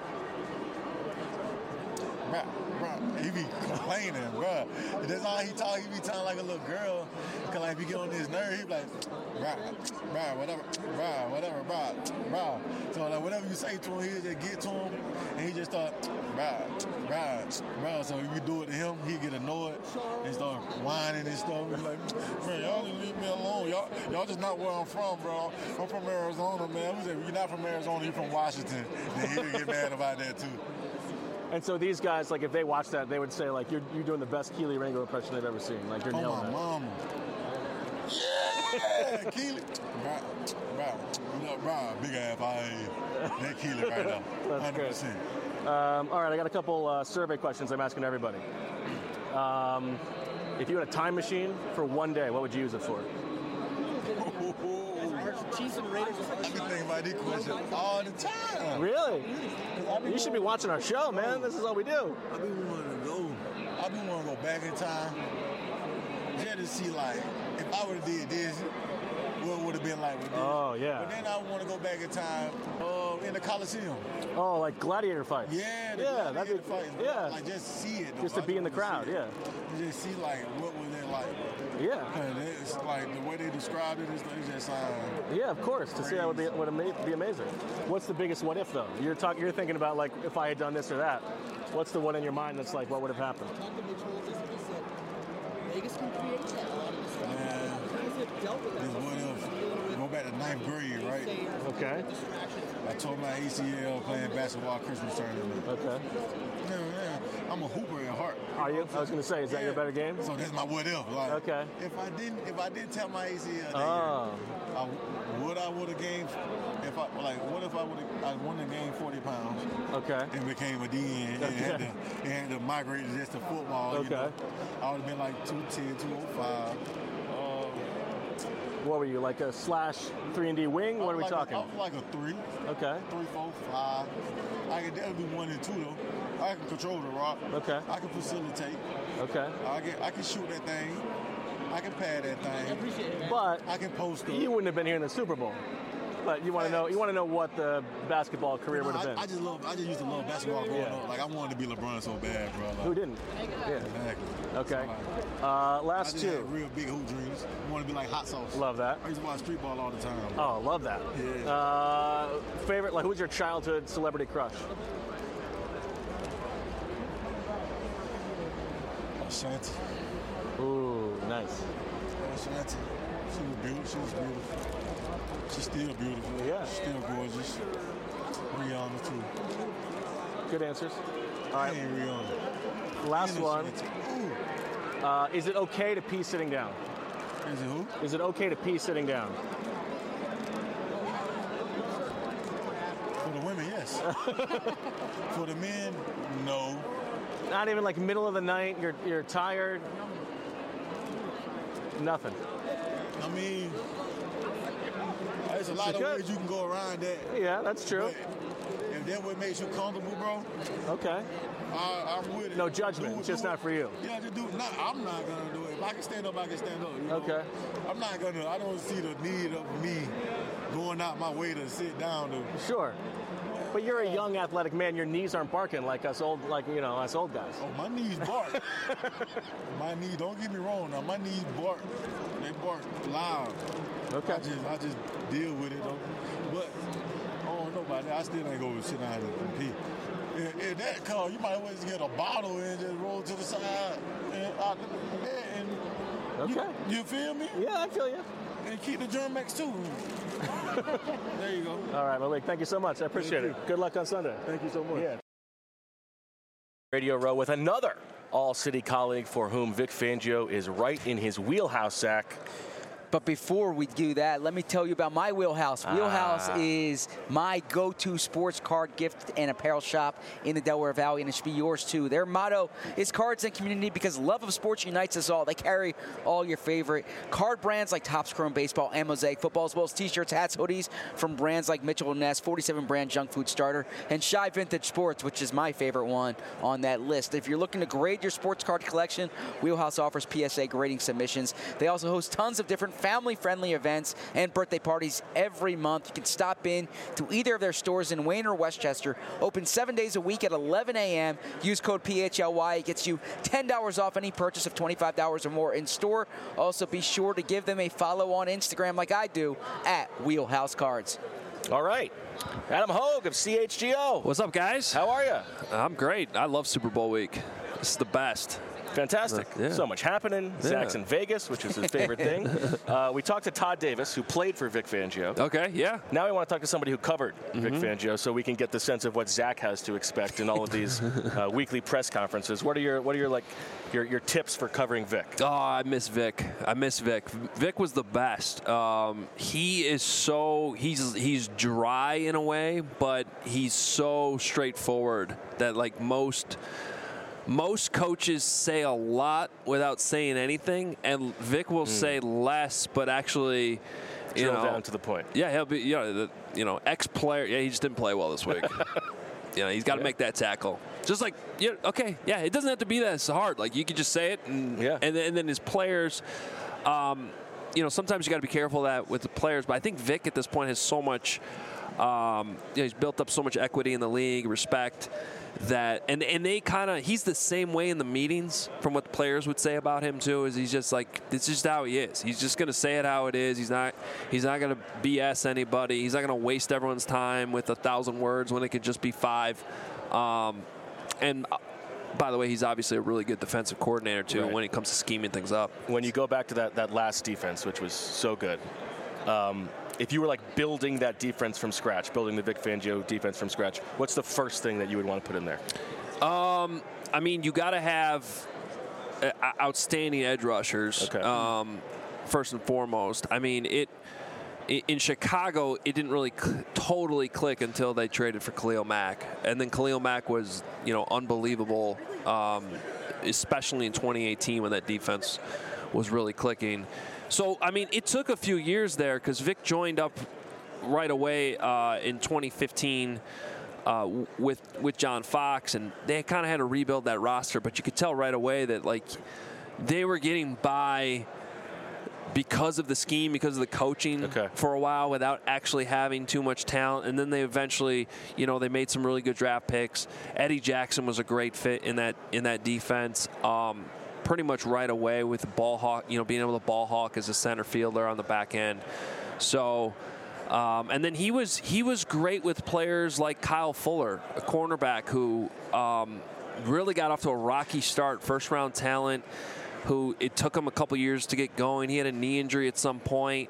Bruh, bruh, he be complaining, bruh. That's all he talk. He be talking like a little girl. Cause like if you get on his nerve, he be like, bruh, bruh, whatever, bruh, whatever, bruh, bruh. So like whatever you say to him, he just get to him, and he just start, bruh, bruh, bruh. So if you do it to him, he get annoyed and start whining and stuff. He be like, man, y'all just leave me alone. Y'all, y'all just not where I'm from, bro. I'm from Arizona, man. We said, you're not from Arizona, you're from Washington. Then he'll get mad about that too. And so these guys, like, if they watch that, they would say, like, you're, you're doing the best Keely Ringo impression they've ever seen. Like, you're Oh, nailing my it. mama. Yeah, Keely. Bro, bro, you know, bro, big ass eye. That Keely right now. That's one hundred percent. Um, all right, I got a couple uh, survey questions I'm asking everybody. Um, if you had a time machine for one day, what would you use it for? Chiefs and Raiders. I be thinking about this question all the time. Really? You should be watching our show, man. This is all we do. I be wanting to go. I be wanting to go back in time just to see, like, if I would have did this, what would have been like with this. Oh, yeah. But then I want to go back in time uh, in the Coliseum. Oh, like gladiator fights. Yeah, the yeah, gladiator that'd be fights. yeah. Like, just see it. though. Just to I be in the wanna crowd, see it. yeah. Just see, like, what was it like? Yeah. And it's like the way they described it, it's, it's just uh, Yeah, of course. To see that would be would ama- be amazing. What's the biggest what if though? You're talking. You're thinking about like if I had done this or that. What's the one in your mind that's like what would have happened? Vegas can create that. man, this what if, go back to ninth grade, right? Okay. I tore my A C L playing basketball Christmas tournament. Okay. Man, man, I'm a hooper at at heart. Are you? I was going to say, is that Yeah. your better game? So that's my what if. Like, Okay. If I didn't, if I didn't tell my A C L that Oh. year, I, would I would have gained? If I like, what if I would have? I won the game forty pounds Okay. and became a D N and had to and had to migrate just to football. Okay. You know, I would have been like two ten, two oh five. What were you, like a slash three and D wing? What are we like talking? A, I was like a three. Okay. Three, four, five. I could definitely be one and two though. I can control the rock. Okay. I can facilitate. Okay. I can I can shoot that thing. I can pad that thing. But I can post up. you wouldn't have been here in the Super Bowl. But you want to know you want to know what the basketball career would have been. I, I just love. I just used to love basketball growing Yeah. up. Like I wanted to be LeBron so bad, bro. Like, Who didn't? Yeah. Exactly. Okay. So, like, Uh, I last just two. had real big hoop dreams. I want to be like hot sauce. Love that. I used to watch street ball all the time. Oh, love that. Yeah. Uh, favorite, like, who's your childhood celebrity crush? Ashanti. Ooh, nice. Ashanti. She was beautiful. She was beautiful. She's still beautiful. Yeah. She's still gorgeous. Rihanna too. Good answers. All right. And Rihanna. Last And one. Ashanti. Ooh. Uh, is it okay to pee sitting down? Is it who? Is it okay to pee sitting down? For the women, yes. For the men, no. Not even like middle of the night. You're you're tired. Nothing. I mean, there's a lot You of could. ways you can go around that. Yeah, that's true. But if that what makes you comfortable, bro, Okay. I, I'm with it. No judgment, Do it, just do not it. for you. Yeah, just do it. Nah, I'm not gonna do it. If I can stand up, I can stand up. You know? Okay. I'm not gonna. I don't see the need of me going out my way to sit down. To, Sure. But you're a young athletic man. Your knees aren't barking like us old, like you know, us old guys. oh, my knees bark. My knees. Don't get me wrong. Now my knees bark. They bark loud. Okay. I just, I just deal with it though. But I don't know about that. I still ain't go sit down and pee. If, if that call, you might always get a bottle and just roll to the side and out the bed and Okay. you, you feel me? Yeah, I feel you. And keep the Germex too. There you go. All right, Malik. Thank you so much. I appreciate Thank it. Good luck on Sunday. Thank you so much. Yeah. Radio Row with another All-City colleague for whom Vic Fangio is right in his wheelhouse, Zach. But before we do that, let me tell you about my Wheelhouse. Wheelhouse Ah. is my go-to sports card gift and apparel shop in the Delaware Valley, and it should be yours too. Their motto is cards and community because love of sports unites us all. They carry all your favorite card brands like Topps Chrome Baseball and Mosaic Football, as well as t-shirts, hats, hoodies from brands like Mitchell and Ness, forty-seven brand junk food starter, and Shy Vintage Sports, which is my favorite one on that list. If you're looking to grade your sports card collection, Wheelhouse offers P S A grading submissions. They also host tons of different family-friendly events and birthday parties every month. You can stop in to either of their stores in Wayne or Westchester. Open seven days a week at eleven a m Use code P H L Y. It gets you ten dollars off any purchase of twenty-five dollars or more in store. Also, be sure to give them a follow on Instagram like I do at Wheelhouse Cards. All right. Adam Hogue of C H G O. What's up, guys? How are you? I'm great. I love Super Bowl week. It's the best. Fantastic. Yeah. So much happening. Yeah. Zach's in Vegas, which is his favorite thing. Uh, we talked to Todd Davis, who played for Vic Fangio. Okay, yeah. Now we want to talk to somebody who covered Vic Fangio, so we can get the sense of what Zach has to expect in all of these uh, weekly press conferences. What are your What are your like your your tips for covering Vic? Oh, I miss Vic. I miss Vic. Vic was the best. Um, he is so he's he's dry in a way, but he's so straightforward that like most. Most coaches say a lot without saying anything, and Vic will mm. say less, but actually, you Drill know, down to the point. Yeah, he'll be, you know, the, you know, ex-player. Yeah, he just didn't play well this week. You know, he's got to yeah. make that tackle. Just like, yeah, okay, yeah, it doesn't have to be that hard. Like you could just say it, and yeah. and, then, and then his players. Um, you know, sometimes you got to be careful of that with the players, but I think Vic at this point has so much. Um, you know, he's built up so much equity in the league, respect. That and and they kind of he's the same way in the meetings from what the players would say about him too. Is he's just like this is just how he is. He's just gonna say it how it is. He's not he's not gonna B S anybody. He's not gonna waste everyone's time with a thousand words when it could just be five. Um, and uh, by the way, he's obviously a really good defensive coordinator too right. when it comes to scheming things up. When you go back to that that last defense, which was so good. Um, If you were like building that defense from scratch, building the Vic Fangio defense from scratch, what's the first thing that you would want to put in there? Um, I mean, you got to have uh, outstanding edge rushers. Okay. Um, first and foremost. I mean, it. In Chicago, it didn't really cl- totally click until they traded for Khalil Mack, and then Khalil Mack was, you know, unbelievable, um, especially in twenty eighteen when that defense was really clicking. So, I mean, it took a few years there because Vic joined up right away uh, in twenty fifteen uh, with with John Fox, and they kind of had to rebuild that roster. But you could tell right away that like they were getting by because of the scheme, because of the coaching okay. for a while without actually having too much talent. And then they eventually, you know, they made some really good draft picks. Eddie Jackson was a great fit in that in that defense. Um, pretty much right away with the ball hawk, you know, being able to ball hawk as a center fielder on the back end. So, um, and then he was he was great with players like Kyle Fuller, a cornerback who um, really got off to a rocky start, first round talent, who it took him a couple years to get going. He had a knee injury at some point,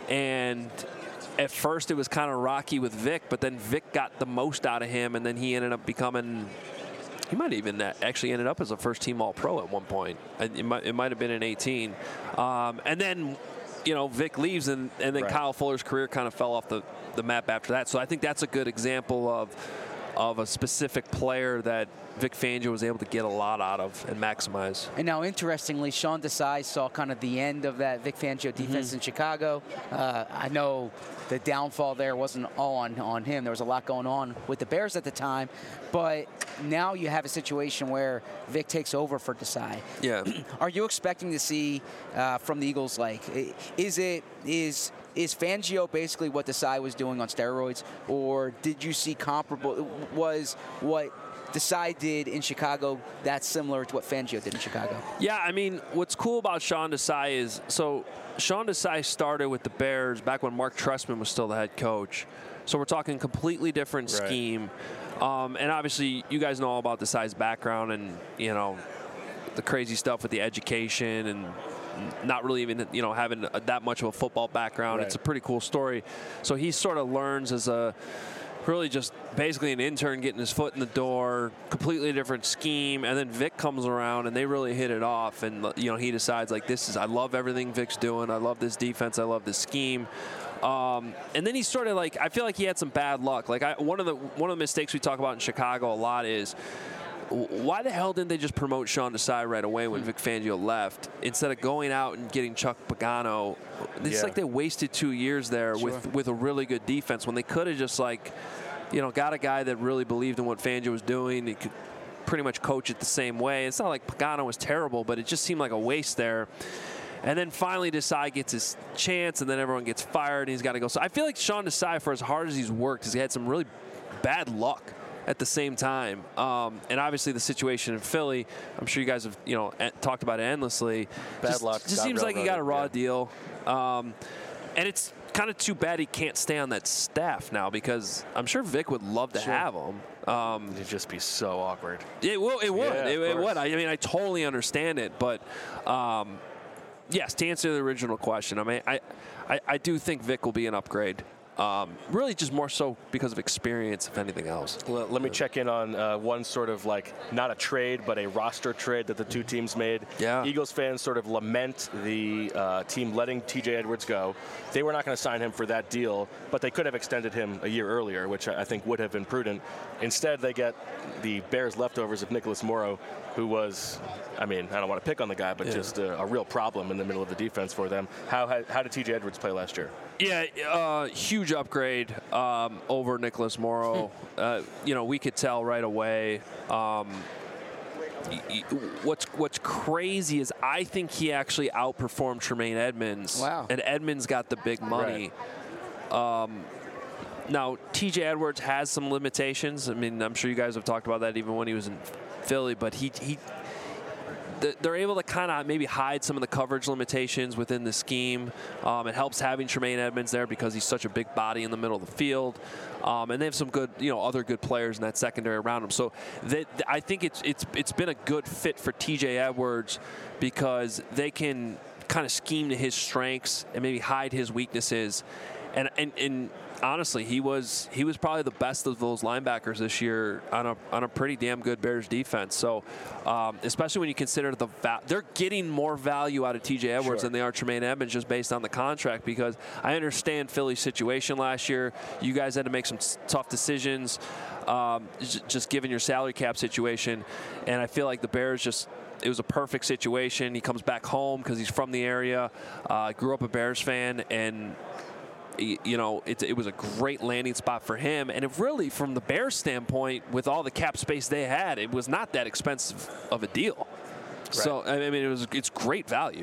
and at first it was kind of rocky with Vic, but then Vic got the most out of him, and then he ended up becoming, he might even actually ended up as a first-team All-Pro at one point. It might, it might have been in eighteen. Um, and then, you know, Vic leaves, and, and then right. Kyle Fuller's career kind of fell off the, the map after that. So I think that's a good example of of a specific player that Vic Fangio was able to get a lot out of and maximize. And now, interestingly, Sean Desai saw kind of the end of that Vic Fangio defense mm-hmm. in Chicago. Uh, I know the downfall there wasn't all on, on him. There was a lot going on with the Bears at the time. But now you have a situation where Vic takes over for Desai. Yeah. Are you expecting to see uh, from the Eagles, like, is it, is... Is Fangio basically what Desai was doing on steroids, or did you see comparable? Was what Desai did in Chicago that similar to what Fangio did in Chicago? Yeah, I mean, what's cool about Sean Desai is, so Sean Desai started with the Bears back when Mark Trestman was still the head coach. So we're talking completely different right. scheme. Um, and obviously, you guys know all about Desai's background and, you know, the crazy stuff with the education and not really even, you know, having a, that much of a football background. Right. It's a pretty cool story. So he sort of learns as a really just basically an intern getting his foot in the door, completely different scheme. And then Vic comes around and they really hit it off. And, you know, he decides, like, this is, I love everything Vic's doing. I love this defense. I love this scheme. Um, and then he sort of like, I feel like he had some bad luck. Like I, one of the, one of the mistakes we talk about in Chicago a lot is, why the hell didn't they just promote Sean Desai right away when Vic Fangio left instead of going out and getting Chuck Pagano? It's yeah. like they wasted two years there sure. with, with a really good defense when they could have just, like, you know, got a guy that really believed in what Fangio was doing. He could pretty much coach it the same way. It's not like Pagano was terrible, but it just seemed like a waste there. And then finally Desai gets his chance, and then everyone gets fired, and he's got to go. So I feel like Sean Desai, for as hard as he's worked, has had some really bad luck at the same time. Um, and obviously the situation in Philly, I'm sure you guys have, you know, talked about it endlessly. Bad just, luck. Just seems like he got a raw yeah. deal. Um, and it's kind of too bad he can't stay on that staff now because I'm sure Vic would love to sure. have him. Um, It'd just be so awkward. It will. It would. Yeah, it, it course. would. I mean, I totally understand it, but um, yes, to answer the original question, I mean, I, I, I do think Vic will be an upgrade. Um, really just more so because of experience, if anything else. Well, let me check in on uh, one sort of like, not a trade, but a roster trade that the two teams made. Yeah. Eagles fans sort of lament the uh, team letting T J Edwards go. They were not going to sign him for that deal, but they could have extended him a year earlier, which I think would have been prudent. Instead, they get the Bears leftovers of Nicholas Morrow, who was, I mean, I don't want to pick on the guy, but yeah. just a, a real problem in the middle of the defense for them. How, how, how did T J Edwards play last year? Yeah, uh, huge upgrade um, over Nicholas Morrow. uh, you know, we could tell right away. Um, y- y- what's what's crazy is I think he actually outperformed Tremaine Edmonds. Wow. And Edmonds got the big money. Right. Um, now, T J Edwards has some limitations. I mean, I'm sure you guys have talked about that even when he was in Philly, but he he. They're able to kind of maybe hide some of the coverage limitations within the scheme. Um, it helps having Tremaine Edmonds there because he's such a big body in the middle of the field. Um, and they have some good, you know, other good players in that secondary around him. So they, I think it's it's it's been a good fit for T J Edwards because they can kind of scheme to his strengths and maybe hide his weaknesses. and, and and honestly, he was he was probably the best of those linebackers this year on a on a pretty damn good Bears defense. So, um, especially when you consider the va- they're getting more value out of T J Edwards Sure. than they are Tremaine Edmonds just based on the contract. Because I understand Philly's situation last year. You guys had to make some s- tough decisions, um, j- just given your salary cap situation, and I feel like the Bears just. It was a perfect situation. He comes back home because he's from the area, uh, grew up a Bears fan, and you know, it, it was a great landing spot for him. And it really, from the Bears standpoint, with all the cap space they had, it was not that expensive of a deal. Right. So, I mean, it was it's great value.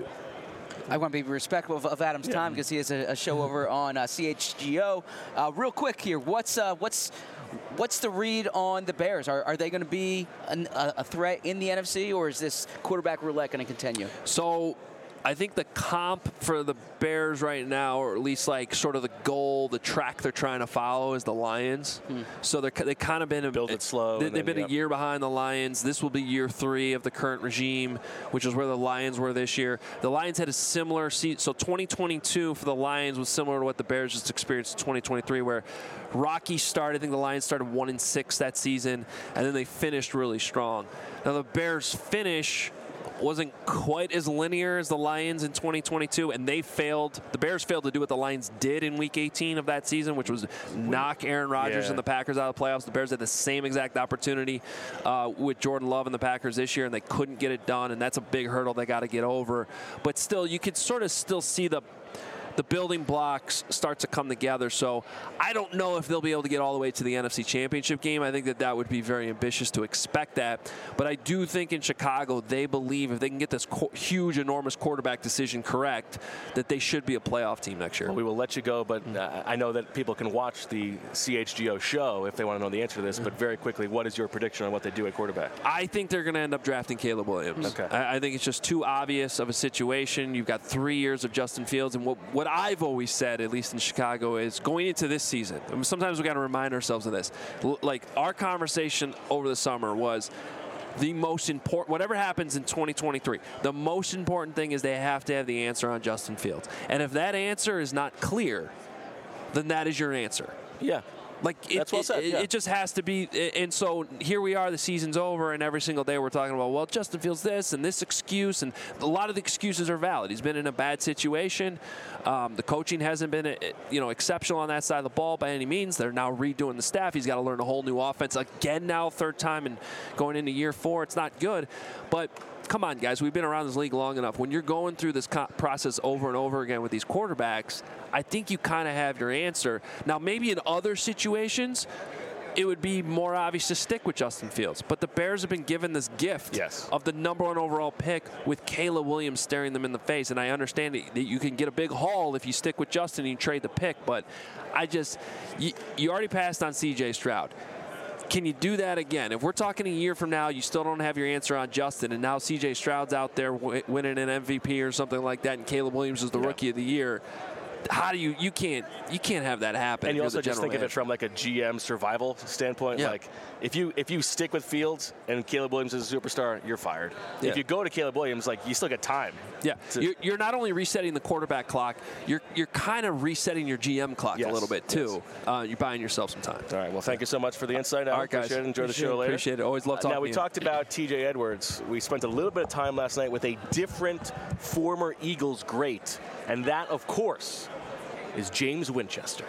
I want to be respectful of, of Adam's time because he has a, a show over on uh, C H G O. Uh, real quick here, what's uh, what's what's the read on the Bears? Are, are they going to be an, a, a threat in the N F C, or is this quarterback roulette going to continue? So I think the comp for the Bears right now, or at least like sort of the goal, the track they're trying to follow, is the Lions. Hmm. So they're they kind of been a, build it slow. They, they've then, been yep. a year behind the Lions. This will be year three of the current regime, which is where the Lions were this year. The Lions had a similar season. So twenty twenty-two for the Lions was similar to what the Bears just experienced in twenty twenty-three, where Rocky started. I think the Lions started one and six that season, and then they finished really strong. Now the Bears finish wasn't quite as linear as the Lions in twenty twenty-two, and they failed. The Bears failed to do what the Lions did in Week eighteen of that season, which was knock Aaron Rodgers yeah. and the Packers out of the playoffs. The Bears had the same exact opportunity uh, with Jordan Love and the Packers this year, and they couldn't get it done, and that's a big hurdle they got to get over. But still, you could sort of still see the the building blocks start to come together. So I don't know if they'll be able to get all the way to the N F C Championship game. I think that that would be very ambitious to expect that. But I do think in Chicago, they believe if they can get this co- huge, enormous quarterback decision correct, that they should be a playoff team next year. Well, we will let you go, but uh, I know that people can watch the C H G O show if they want to know the answer to this. But very quickly, what is your prediction on what they do at quarterback? I think they're going to end up drafting Caleb Williams. Okay. I, I think it's just too obvious of a situation. You've got three years of Justin Fields, and what, what I've always said, at least in Chicago, is going into this season, I mean, sometimes we got to remind ourselves of this. L- like our conversation over the summer was the most important, whatever happens in twenty twenty-three, the most important thing is they have to have the answer on Justin Fields. And if that answer is not clear, then that is your answer. Yeah. Like it, That's well said, it, yeah. it just has to be, and so here we are. The season's over, and every single day we're talking about, well, Justin Fields this and this excuse, and a lot of the excuses are valid. He's been in a bad situation. Um, the coaching hasn't been, you know, exceptional on that side of the ball by any means. They're now redoing the staff. He's got to learn a whole new offense again now, third time, and going into year four. It's not good, but. Come on, guys. We've been around this league long enough. When you're going through this co- process over and over again with these quarterbacks, I think you kind of have your answer. Now, maybe in other situations, it would be more obvious to stick with Justin Fields. But the Bears have been given this gift yes. of the number one overall pick with Caleb Williams staring them in the face. And I understand that you can get a big haul if you stick with Justin and you trade the pick. But I just, you, you already passed on C J Stroud. Can you do that again? If we're talking a year from now, you still don't have your answer on Justin, and now C J Stroud's out there w- winning an M V P or something like that, and Caleb Williams is the yeah. rookie of the year. How do you you can't you can't have that happen? And you also just think manager. of it from like a G M survival standpoint. Yeah. Like if you if you stick with Fields and Caleb Williams is a superstar, you're fired. Yeah. If you go to Caleb Williams, like you still get time. Yeah, you're, you're not only resetting the quarterback clock, you're you're kind of resetting your G M clock yes. a little bit too. Yes. Uh, you're buying yourself some time. All right. Well, thank you so much for the insight. All right, guys. Appreciate it. Enjoy appreciate the show it, later. Appreciate it. Always love talking. Uh, now we to you. talked about T J Edwards. We spent a little bit of time last night with a different former Eagles great, and that, of course, is James Winchester.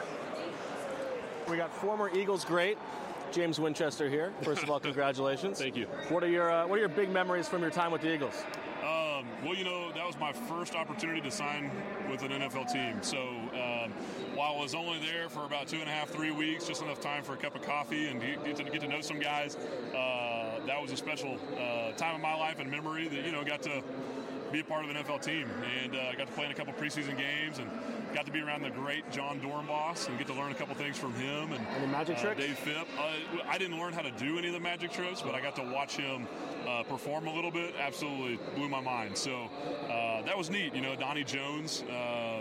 We got former Eagles great James Winchester here. First of all, congratulations. Thank you. What are your uh, What are your big memories from your time with the Eagles? Um, well, you know, that was my first opportunity to sign with an N F L team. So um, while I was only there for about two and a half, three weeks, just enough time for a cup of coffee and get to, get to know some guys, uh, that was a special uh, time of my life and memory that, you know, got to be a part of an N F L team. And I uh, got to play in a couple preseason games and got to be around the great John Dornbos and get to learn a couple things from him. And any magic uh, tricks? Dave Phipp. Uh, I didn't learn how to do any of the magic tricks, but I got to watch him uh, perform a little bit. Absolutely blew my mind. So uh, that was neat. You know, Donnie Jones, uh,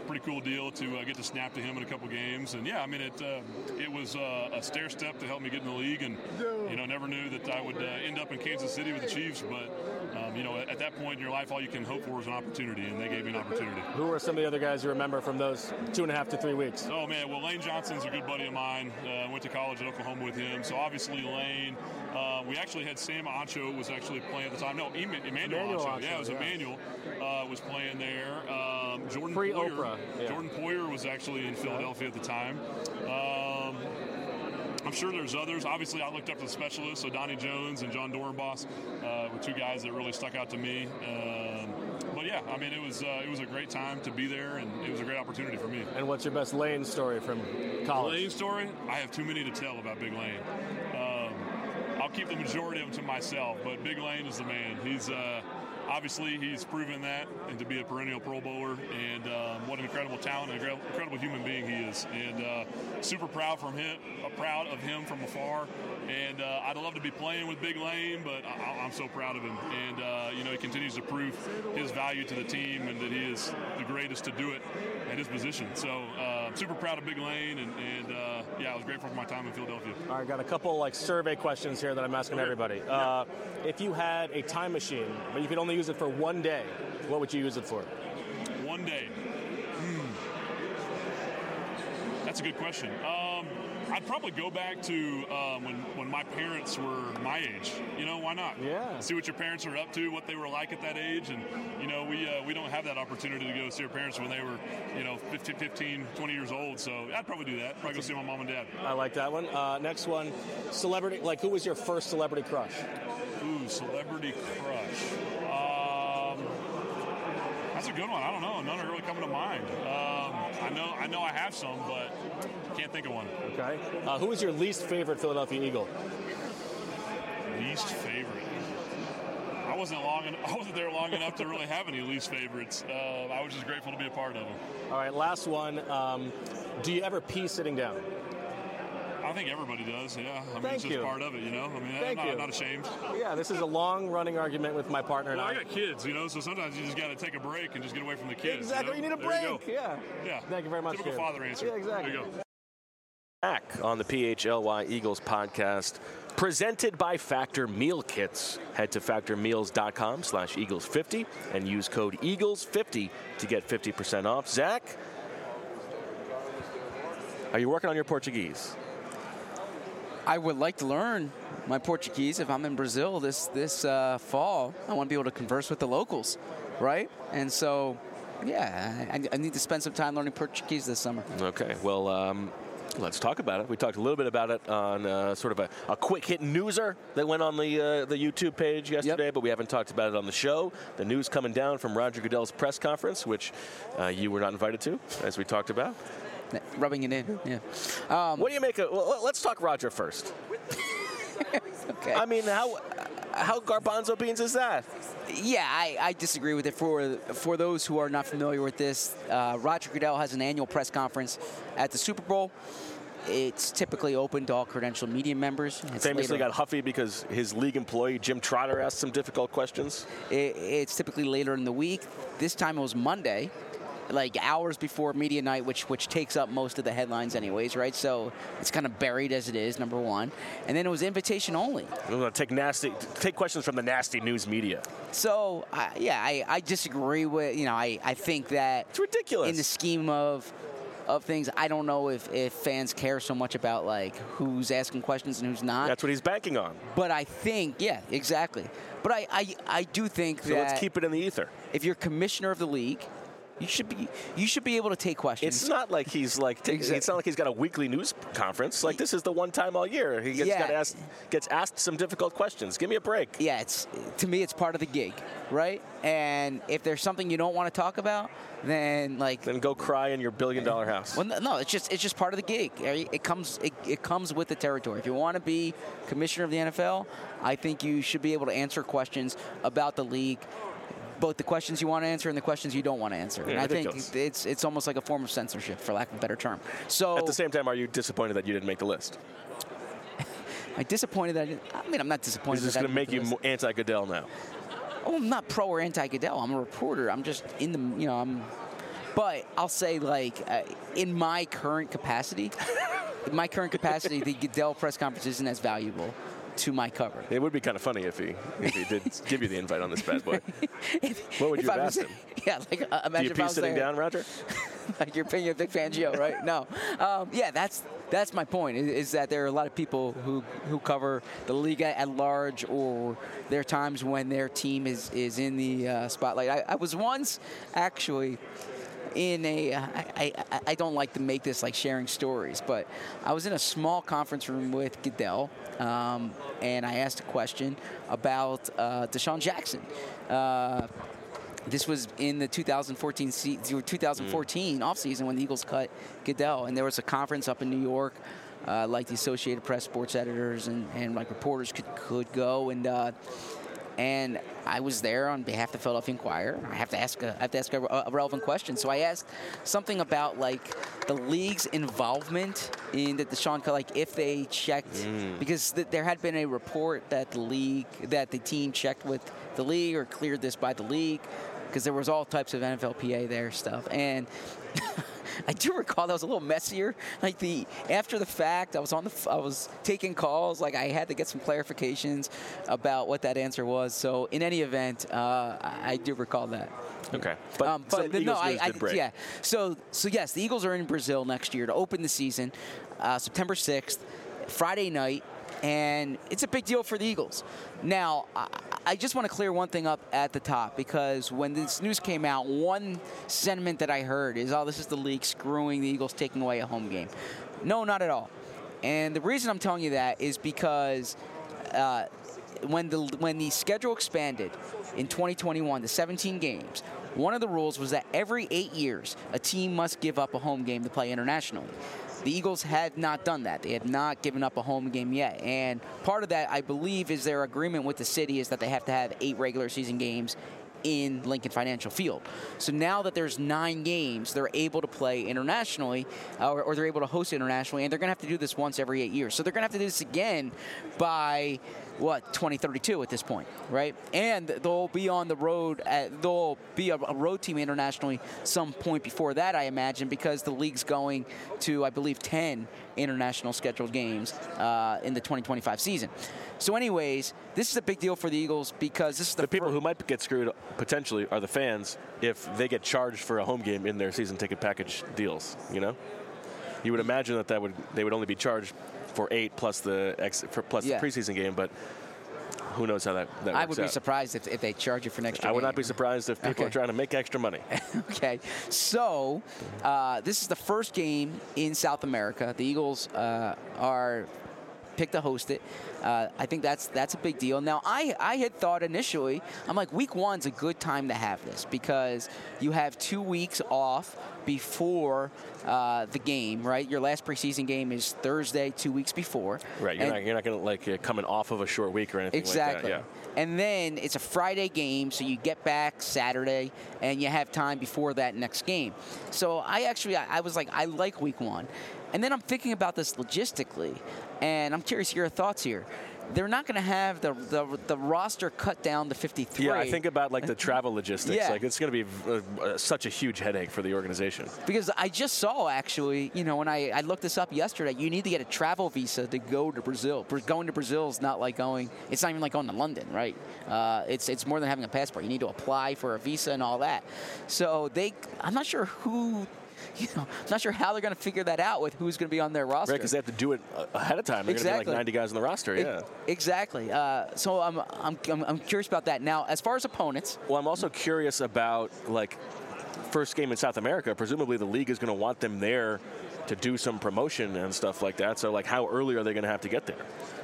pretty cool deal to uh, get to snap to him in a couple games. And yeah, I mean, it uh, it was uh, a stair step to help me get in the league. And you know, never knew that I would uh, end up in Kansas City with the Chiefs. But um, you know, at, at that point in your life, all you can hope for is an opportunity, and they gave me an opportunity. Who are some of the other guys you remember from those two and a half to three weeks? Oh man, well Lane Johnson's a good buddy of mine. Uh, went to college at Oklahoma with him, so obviously Lane. Uh, we actually had Sam Ancho was actually playing at the time. No, Emmanuel, Emmanuel Ancho. Ancho. Yeah, it was yeah. Emmanuel uh, was playing there. Um, Jordan Pre-Oprah. Poyer. Yeah. Jordan Poyer was actually in Philadelphia at the time. Um, I'm sure there's others. Obviously, I looked up to the specialists, so Donnie Jones and John Dorenbos uh, were two guys that really stuck out to me. Um, but yeah, I mean, it was uh, it was a great time to be there, and it was a great opportunity for me. And what's your best Lane story from college? Lane story? I have too many to tell about Big Lane. Um, I'll keep the majority of them to myself, but Big Lane is the man. He's uh, obviously he's proven that, and to be a perennial Pro Bowler, and um, what an incredible talent and incredible human being he is. And uh, super proud from him, uh, proud of him from afar. And uh, I'd love to be playing with Big Lane, but I, I'm so proud of him. And uh, you know, he continues to prove his value to the team, and that he is the greatest to do it at his position. So uh, super proud of Big Lane, and, and uh, yeah, I was grateful for my time in Philadelphia. All right, got a couple like survey questions here that I'm asking okay. everybody. Uh, if you had a time machine, but you could only use it for one day, what would you use it for? One day. Hmm. That's a good question. Um, I'd probably go back to um, when when my parents were my age. You know, why not? Yeah. See what your parents are up to, what they were like at that age, and you know, we uh, we don't have that opportunity to go see our parents when they were, you know, fifteen, twenty years old. So I'd probably do that. Probably go see my mom and dad. I like that one. Uh, next one, celebrity. Like, who was your first celebrity crush? Ooh, celebrity crush. Um, that's a good one. I don't know. None are really coming to mind. Um, I know I know I have some, but can't think of one. Okay. Uh, who is your least favorite Philadelphia Eagle? Least favorite. I wasn't long. En- I wasn't there long enough to really have any least favorites. Uh, I was just grateful to be a part of them. All right. Last one. Um, do you ever pee sitting down? I think everybody does, yeah. I mean, Thank it's just you. part of it, you know? I mean, Thank I'm not, you. I'm not ashamed. Yeah, this is a long-running argument with my partner Well, and I I. got kids, you know, so sometimes you just got to take a break and just get away from the kids. Exactly. You, You know? need a There you break. go. Yeah. Yeah. Thank you very much. Typical kid. father answer. Yeah, exactly. There you go. Back on the P H L Y Eagles podcast, presented by Factor Meal Kits. Head to factor meals dot com slash eagles fifty and use code eagles fifty to get fifty percent off. Zach, are you working on your Portuguese? I would like to learn my Portuguese if I'm in Brazil this this uh, fall. I want to be able to converse with the locals, right? And so, yeah, I, I need to spend some time learning Portuguese this summer. Okay, well, um, let's talk about it. We talked a little bit about it on uh, sort of a, a quick hit newser that went on the uh, the YouTube page yesterday, yep. But we haven't talked about it on the show. The news coming down from Roger Goodell's press conference, which uh, you were not invited to, as we talked about. Rubbing it in, yeah. Um, what do you make of? Well, let's talk Roger first. Okay. I mean, how how garbanzo beans is that? Yeah, I, I disagree with it. For for those who are not familiar with this, uh, Roger Goodell has an annual press conference at the Super Bowl. It's typically open to all credentialed media members. It's Famously later, got huffy because his league employee, Jim Trotter, asked some difficult questions. It, it's typically later in the week. This time it was Monday, like hours before media night, which which takes up most of the headlines anyways, right? So it's kind of buried as it is, number one. And then it was invitation only. We're going to take nasty, take questions from the nasty news media. So, uh, yeah, I, I disagree with, you know, I, I think that... It's ridiculous. In the scheme of of things, I don't know if, if fans care so much about, like, who's asking questions and who's not. That's what he's banking on. But I think, yeah, exactly. But I, I, I do think so that... So let's keep it in the ether. If you're commissioner of the league... You should be. You should be able to take questions. It's not like he's like. T- exactly. It's not like he's got a weekly news conference. Like this is the one time all year he gets, yeah. got asked, gets asked some difficult questions. Give me a break. Yeah, it's to me it's part of the gig, right? And if there's something you don't want to talk about, then like then go cry in your billion dollar house. Well, no, it's just it's just part of the gig. It comes it, it comes with the territory. If you want to be commissioner of the N F L, I think you should be able to answer questions about the league. Both the questions you want to answer and the questions you don't want to answer. Yeah, and I ridiculous. think it's it's almost like a form of censorship, for lack of a better term. So at the same time, are you disappointed that you didn't make the list? I'm disappointed that I didn't. I mean, I'm not disappointed. Is this going to make you anti-Goodell now? Oh, I'm not pro or anti-Goodell. I'm a reporter. I'm just in the, you know, I'm But I'll say, like, uh, in my current capacity, in my current capacity, the Goodell press conference isn't as valuable to my cover. It would be kind of funny if he if he did give you the invite on this bad boy. What would you If I have was- asked him? Yeah, like uh, imagine Do you if I pee was sitting there. down, Roger? Like you're paying a Vic Fangio, right? No. Um, yeah, that's that's my point. Is, is that there are a lot of people who who cover the league at, at large, or there are times when their team is is in the uh, spotlight. I, I was once actually in a. I, I I don't like to make this like sharing stories, but I was in a small conference room with Goodell, um, and I asked a question about uh, Deshaun Jackson. Uh, This was in the two thousand fourteen se- twenty fourteen mm. offseason when the Eagles cut Goodell, and there was a conference up in New York, uh, like the Associated Press sports editors and, and like reporters could could go, and uh, and I was there on behalf of the Philadelphia Inquirer. I have to ask a, I have to ask a, a relevant question, so I asked something about like the league's involvement in the Deshaun cut, like if they checked, mm. because th- there had been a report that the league, that the team checked with the league or cleared this by the league, because there was all types of N F L P A there stuff. And I do recall that was a little messier. Like the after the fact, I was on the I was taking calls. Like I had to get some clarifications about what that answer was. So in any event, uh, I, I do recall that. Okay, but, um, but some the, Eagles no, news I, did I break. yeah. So so yes, the Eagles are in Brazil next year to open the season, uh, September sixth, Friday night. And it's a big deal for the Eagles. Now, I, I just want to clear one thing up at the top, because when this news came out, one sentiment that I heard is, oh, this is the league screwing the Eagles taking away a home game. No, not at all. And the reason I'm telling you that is because uh, when the when the schedule expanded in twenty twenty-one to seventeen games, one of the rules was that every eight years, a team must give up a home game to play internationally. The Eagles had not done that. They had not given up a home game yet. And part of that, I believe, is their agreement with the city is that they have to have eight regular season games in Lincoln Financial Field. So now that there's nine games, they're able to play internationally, uh, or, or they're able to host internationally, and they're going to have to do this once every eight years. So they're going to have to do this again by, what, twenty thirty-two at this point, right? And they'll be on the road, at, they'll be a, a road team internationally some point before that, I imagine, because the league's going to, I believe, ten international scheduled games uh, in the twenty twenty-five season. So anyways, this is a big deal for the Eagles because this is the, the people who might get screwed potentially are the fans if they get charged for a home game in their season ticket package deals. You know, you would imagine that that would they would only be charged for eight plus the ex, for plus yeah. the preseason game, but who knows how that, that works I would be out. surprised if, if they charge you for an extra I would game. not be surprised if people Okay. are trying to make extra money. Okay, so uh, this is the first game in South America. The Eagles uh, are picked to host it. Uh, I think that's that's a big deal. Now, I, I had thought initially, I'm like, week one's a good time to have this because you have two weeks off before uh, the game, right? Your last preseason game is Thursday, two weeks before. Right, you're And- not you're not going to like uh, coming off of a short week or anything Exactly. like that. Yeah. And then it's a Friday game, so you get back Saturday, and you have time before that next game. So I actually, I, I was like, I like week one. And then I'm thinking about this logistically, and I'm curious your thoughts here. They're not going to have the, the the roster cut down to fifty-three. Yeah, I think about like the travel logistics. Yeah. Like it's going to be uh, uh, such a huge headache for the organization. Because I just saw, actually, you know, when I, I looked this up yesterday, you need to get a travel visa to go to Brazil. Bra- Going to Brazil is not like going, it's not even like going to London, right? Uh, it's it's more than having a passport. You need to apply for a visa and all that. So they, I'm not sure who, you know, I'm not sure how they're going to figure that out with who's going to be on their roster. Right, because they have to do it uh, ahead of time. They're Exactly. going to be like ninety guys on the roster, E- yeah. Exactly. Uh, so I'm, I'm, I'm, I'm curious about that. Now, as far as opponents. Well, I'm also curious about, like, first game in South America. Presumably the league is going to want them there to do some promotion and stuff like that. So, like, how early are they going to have to get there?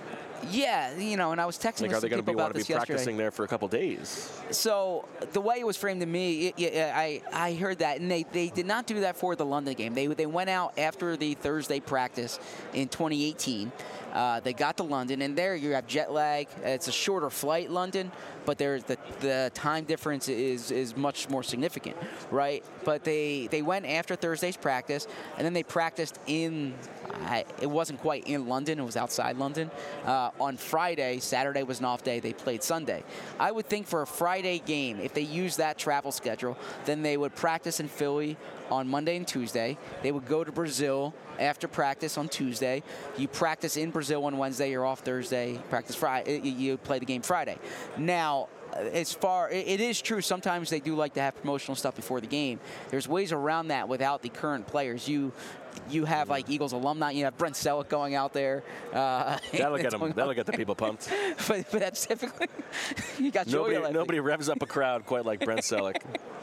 Yeah, you know, and I was texting Like, with are they some going to people be want about to be this yesterday. practicing there for a couple days? So the way it was framed to me, it, yeah, I I heard that, and they, they did not do that for the London game. They they went out after the Thursday practice in twenty eighteen. Uh, they got to London, and there you have jet lag. It's a shorter flight, London, but there's the the time difference is is much more significant, right? But they they went after Thursday's practice, and then they practiced in I, it wasn't quite in London. It was outside London. Uh, on Friday, Saturday was an off day. They played Sunday. I would think for a Friday game, if they use that travel schedule, then they would practice in Philly on Monday and Tuesday. They would go to Brazil after practice on Tuesday. You practice in Brazil on Wednesday. You're off Thursday. Practice Friday. You play the game Friday. Now, as far, it is true, sometimes they do like to have promotional stuff before the game. There's ways around that without the current players. You you have like Eagles alumni. You have Brent Selleck going out there. Uh, that'll get them. That'll get the people pumped. but, but that's typically you got nobody. Joey Nobody revs up a crowd quite like Brent Selleck.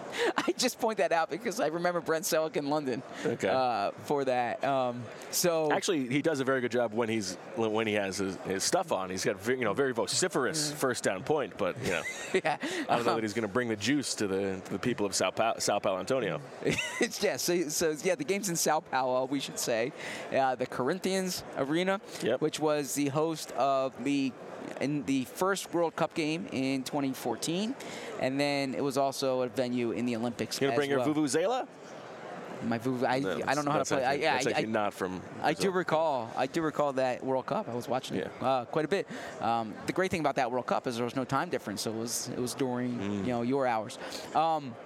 I just point that out because I remember Brent Selleck in London okay. uh, for that. Um, so actually, he does a very good job when he's when he has his, his stuff on. He's got very, you know very vociferous first down point, but you know yeah. I don't know um, that he's going to bring the juice to the to the people of Sao pa- Sao Paulo Antonio. yeah. So, so yeah, the game's in Sao Paulo. We should say uh, the Corinthians Arena, yep. which was the host of the. in the first World Cup game in twenty fourteen, and then it was also a venue in the Olympics. You gonna bring well. your vuvuzela? My vuvu, I, no, I don't know how to play. Actually, I, yeah, that's I, actually I, not from. I do recall. I do recall that World Cup. I was watching it yeah. uh, quite a bit. Um, the great thing about that World Cup is there was no time difference, so it was it was during mm. you know your hours. Um,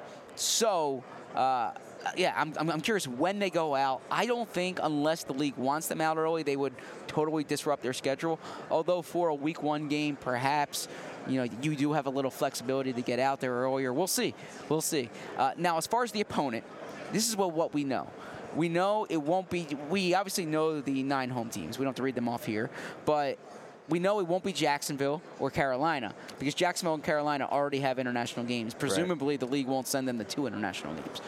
so. Uh, Yeah, I'm, I'm curious when they go out. I don't think unless the league wants them out early, they would totally disrupt their schedule. Although for a week one game, perhaps, you know, you do have a little flexibility to get out there earlier. We'll see. We'll see. Uh, now, as far as the opponent, this is what, what we know. We know it won't be – we obviously know the nine home teams. We don't have to read them off here. But we know it won't be Jacksonville or Carolina because Jacksonville and Carolina already have international games. Presumably, right. the league won't send them the two international games.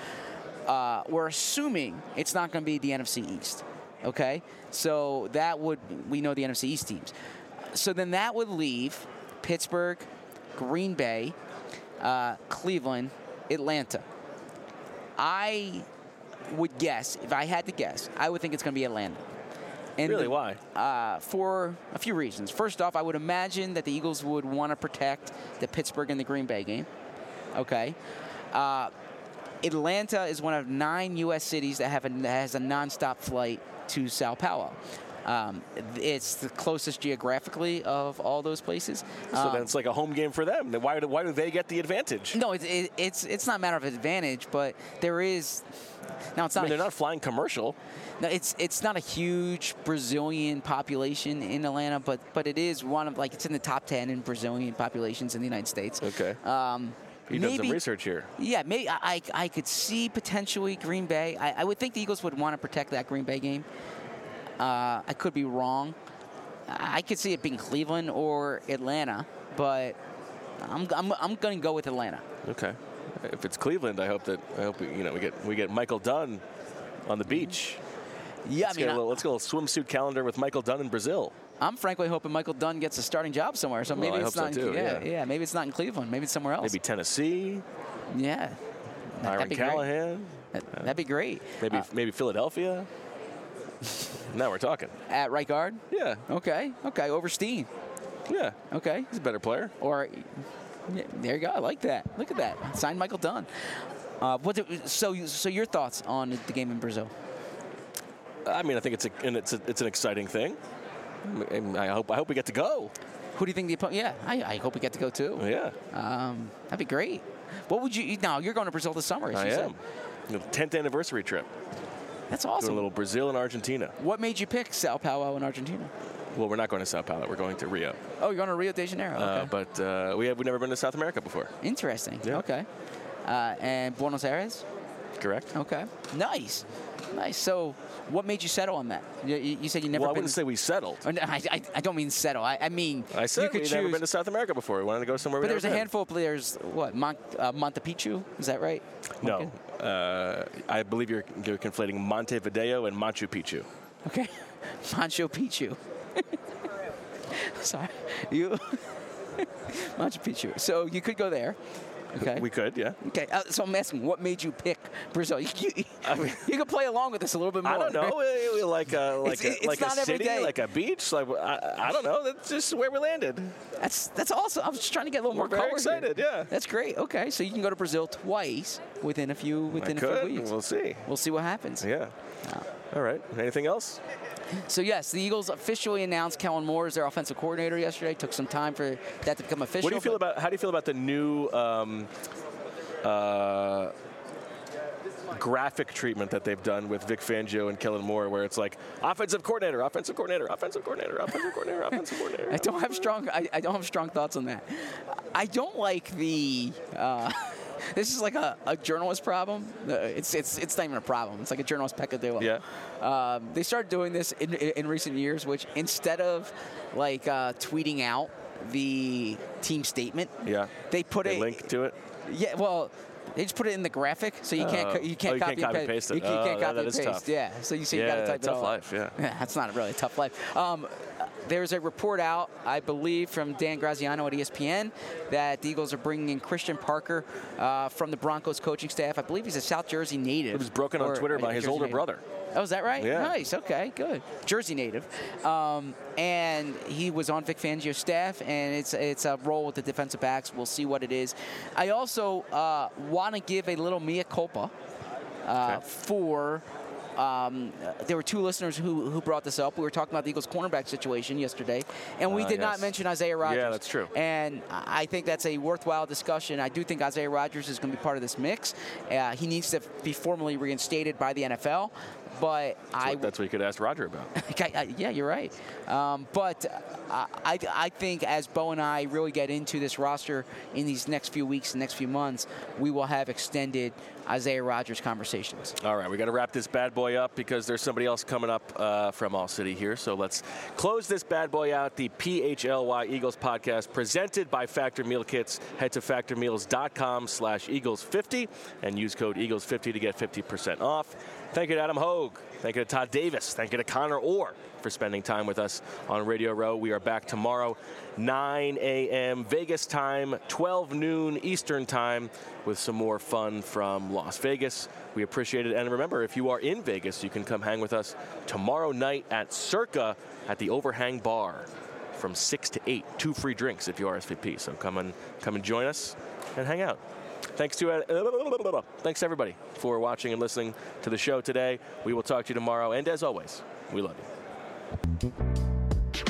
Uh, we're assuming it's not going to be the N F C East, okay? So that would, we know the N F C East teams. So then that would leave Pittsburgh, Green Bay, uh, Cleveland, Atlanta. I would guess, if I had to guess, I would think it's going to be Atlanta. And really, the, why? Uh, for a few reasons. First off, I would imagine that the Eagles would want to protect the Pittsburgh and the Green Bay game, okay? Uh, Atlanta is one of nine U S cities that have a, that has a nonstop flight to Sao Paulo. Um, it's the closest geographically of all those places. So um, then it's like a home game for them. Then why do, why do they get the advantage? No, it, it, it's it's not a matter of advantage, but there is. Now it's not. I mean, they're not flying commercial. No, it's it's not a huge Brazilian population in Atlanta, but but it is one of like it's in the top ten in Brazilian populations in the United States. Okay. Um, You did some research here. Yeah, maybe I, I could see potentially Green Bay. I, I would think the Eagles would want to protect that Green Bay game. Uh, I could be wrong. I could see it being Cleveland or Atlanta, but I'm I'm, I'm going to go with Atlanta. Okay. If it's Cleveland, I hope that I hope we, you know we get we get Michael Dunn on the beach. Yeah, let's I mean, get a little, let's get a little swimsuit calendar with Michael Dunn in Brazil. I'm frankly hoping Michael Dunn gets a starting job somewhere. So maybe well, it's I not. hope so in, too, yeah, yeah, yeah. Maybe it's not in Cleveland. Maybe it's somewhere else. Maybe Tennessee. Yeah. Byron Callahan. That, that'd be great. Maybe uh, maybe Philadelphia. Now we're talking. At right guard. Yeah. Okay. Okay. Over Steen. Yeah. Okay. He's a better player. Or yeah, there you go. I like that. Look at that. Signed Michael Dunn. Uh, what? Do, so so your thoughts on the game in Brazil? I mean, I think it's a and it's a, it's an exciting thing. I hope I hope we get to go. Who do you think the opponent? Yeah, I, I hope we get to go too. Yeah, um, that'd be great. What would you? Now you're going to Brazil this summer. As I you am. Said. tenth anniversary trip. That's awesome. Doing a little Brazil and Argentina. What made you pick Sao Paulo and Argentina? Well, we're not going to Sao Paulo. We're going to Rio. Oh, you're going to Rio de Janeiro. Okay. Uh, but uh, we have we've never been to South America before. Interesting. Yeah. Okay. Uh, and Buenos Aires. Correct. Okay. Nice. Nice. So, what made you settle on that? You, you said you never. Well, been I wouldn't say we settled. Oh, no, I, I, I don't mean settle. I, I mean I said you could we've choose. never been to South America before. We wanted to go somewhere. But we there's a been. handful of players. What Mont, uh, Montepicchu? Is that right? No, okay. uh, I believe you're, you're conflating Montevideo and Machu Picchu. Okay, Machu Picchu. Sorry, you Machu Picchu. So you could go there. Okay. We could, yeah. Okay, uh, so I'm asking, what made you pick Brazil? You, you, I mean, you could play along with this a little bit more. I don't know, like a like it's, a, it's like not a city, every day. like a beach, like I, I don't know. That's just where we landed. That's that's awesome. I was just trying to get a little We're more very color excited, here. yeah. That's great. Okay, so you can go to Brazil twice within a few within I a could. few weeks. We'll see. We'll see what happens. Yeah. Uh, All right. Anything else? So, yes, the Eagles officially announced Kellen Moore as their offensive coordinator yesterday. Took some time for that to become official. What do you feel about, how do you feel about the new um, uh, graphic treatment that they've done with Vic Fangio and Kellen Moore, where it's like offensive coordinator, offensive coordinator, offensive coordinator, offensive coordinator, offensive coordinator? I don't have strong. I, I don't have strong thoughts on that. I don't like the. Uh, this is like a, a journalist problem. Uh, it's it's it's not even a problem. It's like a journalist peccadillo. Yeah. Um, they started doing this in, in, in recent years, which instead of like uh, tweeting out the team statement, Yeah. they put They a link to it. Yeah. Well. They just put it in the graphic, so you can't Oh. co- you can't Oh, you copy can't copy and paste paste. it. You, can't- Oh, can't that- copy that and is paste. tough. Yeah. So you see, you Yeah, got to type tough it all. life, yeah. Yeah, that's not really a tough life. Um, there's a report out, I believe, from Dan Graziano at E S P N that the Eagles are bringing in Christian Parker uh, from the Broncos coaching staff. I believe he's a South Jersey native. It was broken on Or- Twitter uh, by his Jersey older native. brother. Oh, is that right? Yeah. Nice. Okay, good. Jersey native. Um, and he was on Vic Fangio's staff, and it's it's a role with the defensive backs. We'll see what it is. I also uh, want to give a little mea culpa uh, Okay. for. Um, there were two listeners who, who brought this up. We were talking about the Eagles' cornerback situation yesterday, and we Uh, did not yes. mention Isaiah Rodgers. Yeah, that's true. And I think that's a worthwhile discussion. I do think Isaiah Rodgers is going to be part of this mix. Uh, he needs to be formally reinstated by the N F L. But That's, I what, that's what you could ask Roger about. Okay, uh, yeah, you're right. Um, but uh, I, I think as Bo and I really get into this roster in these next few weeks and next few months, we will have extended Isaiah Rodgers conversations. All right, we got to wrap this bad boy up because there's somebody else coming up uh, from All City here. So let's close this bad boy out. The P H L Y Eagles podcast presented by Factor Meal Kits. Head to factor meals dot com slash Eagles fifty and use code Eagles fifty to get fifty percent off. Thank you to Adam Hogue. Thank you to Todd Davis. Thank you to Connor Orr for spending time with us on Radio Row. We are back tomorrow, nine a.m. Vegas time, twelve noon Eastern time, with some more fun from Las Vegas. We appreciate it. And remember, if you are in Vegas, you can come hang with us tomorrow night at Circa at the Overhang Bar from six to eight. Two free drinks if you R S V P. So come and, come and join us and hang out. Thanks to uh, thanks everybody for watching and listening to the show today. We will talk to you tomorrow, and as always, we love you.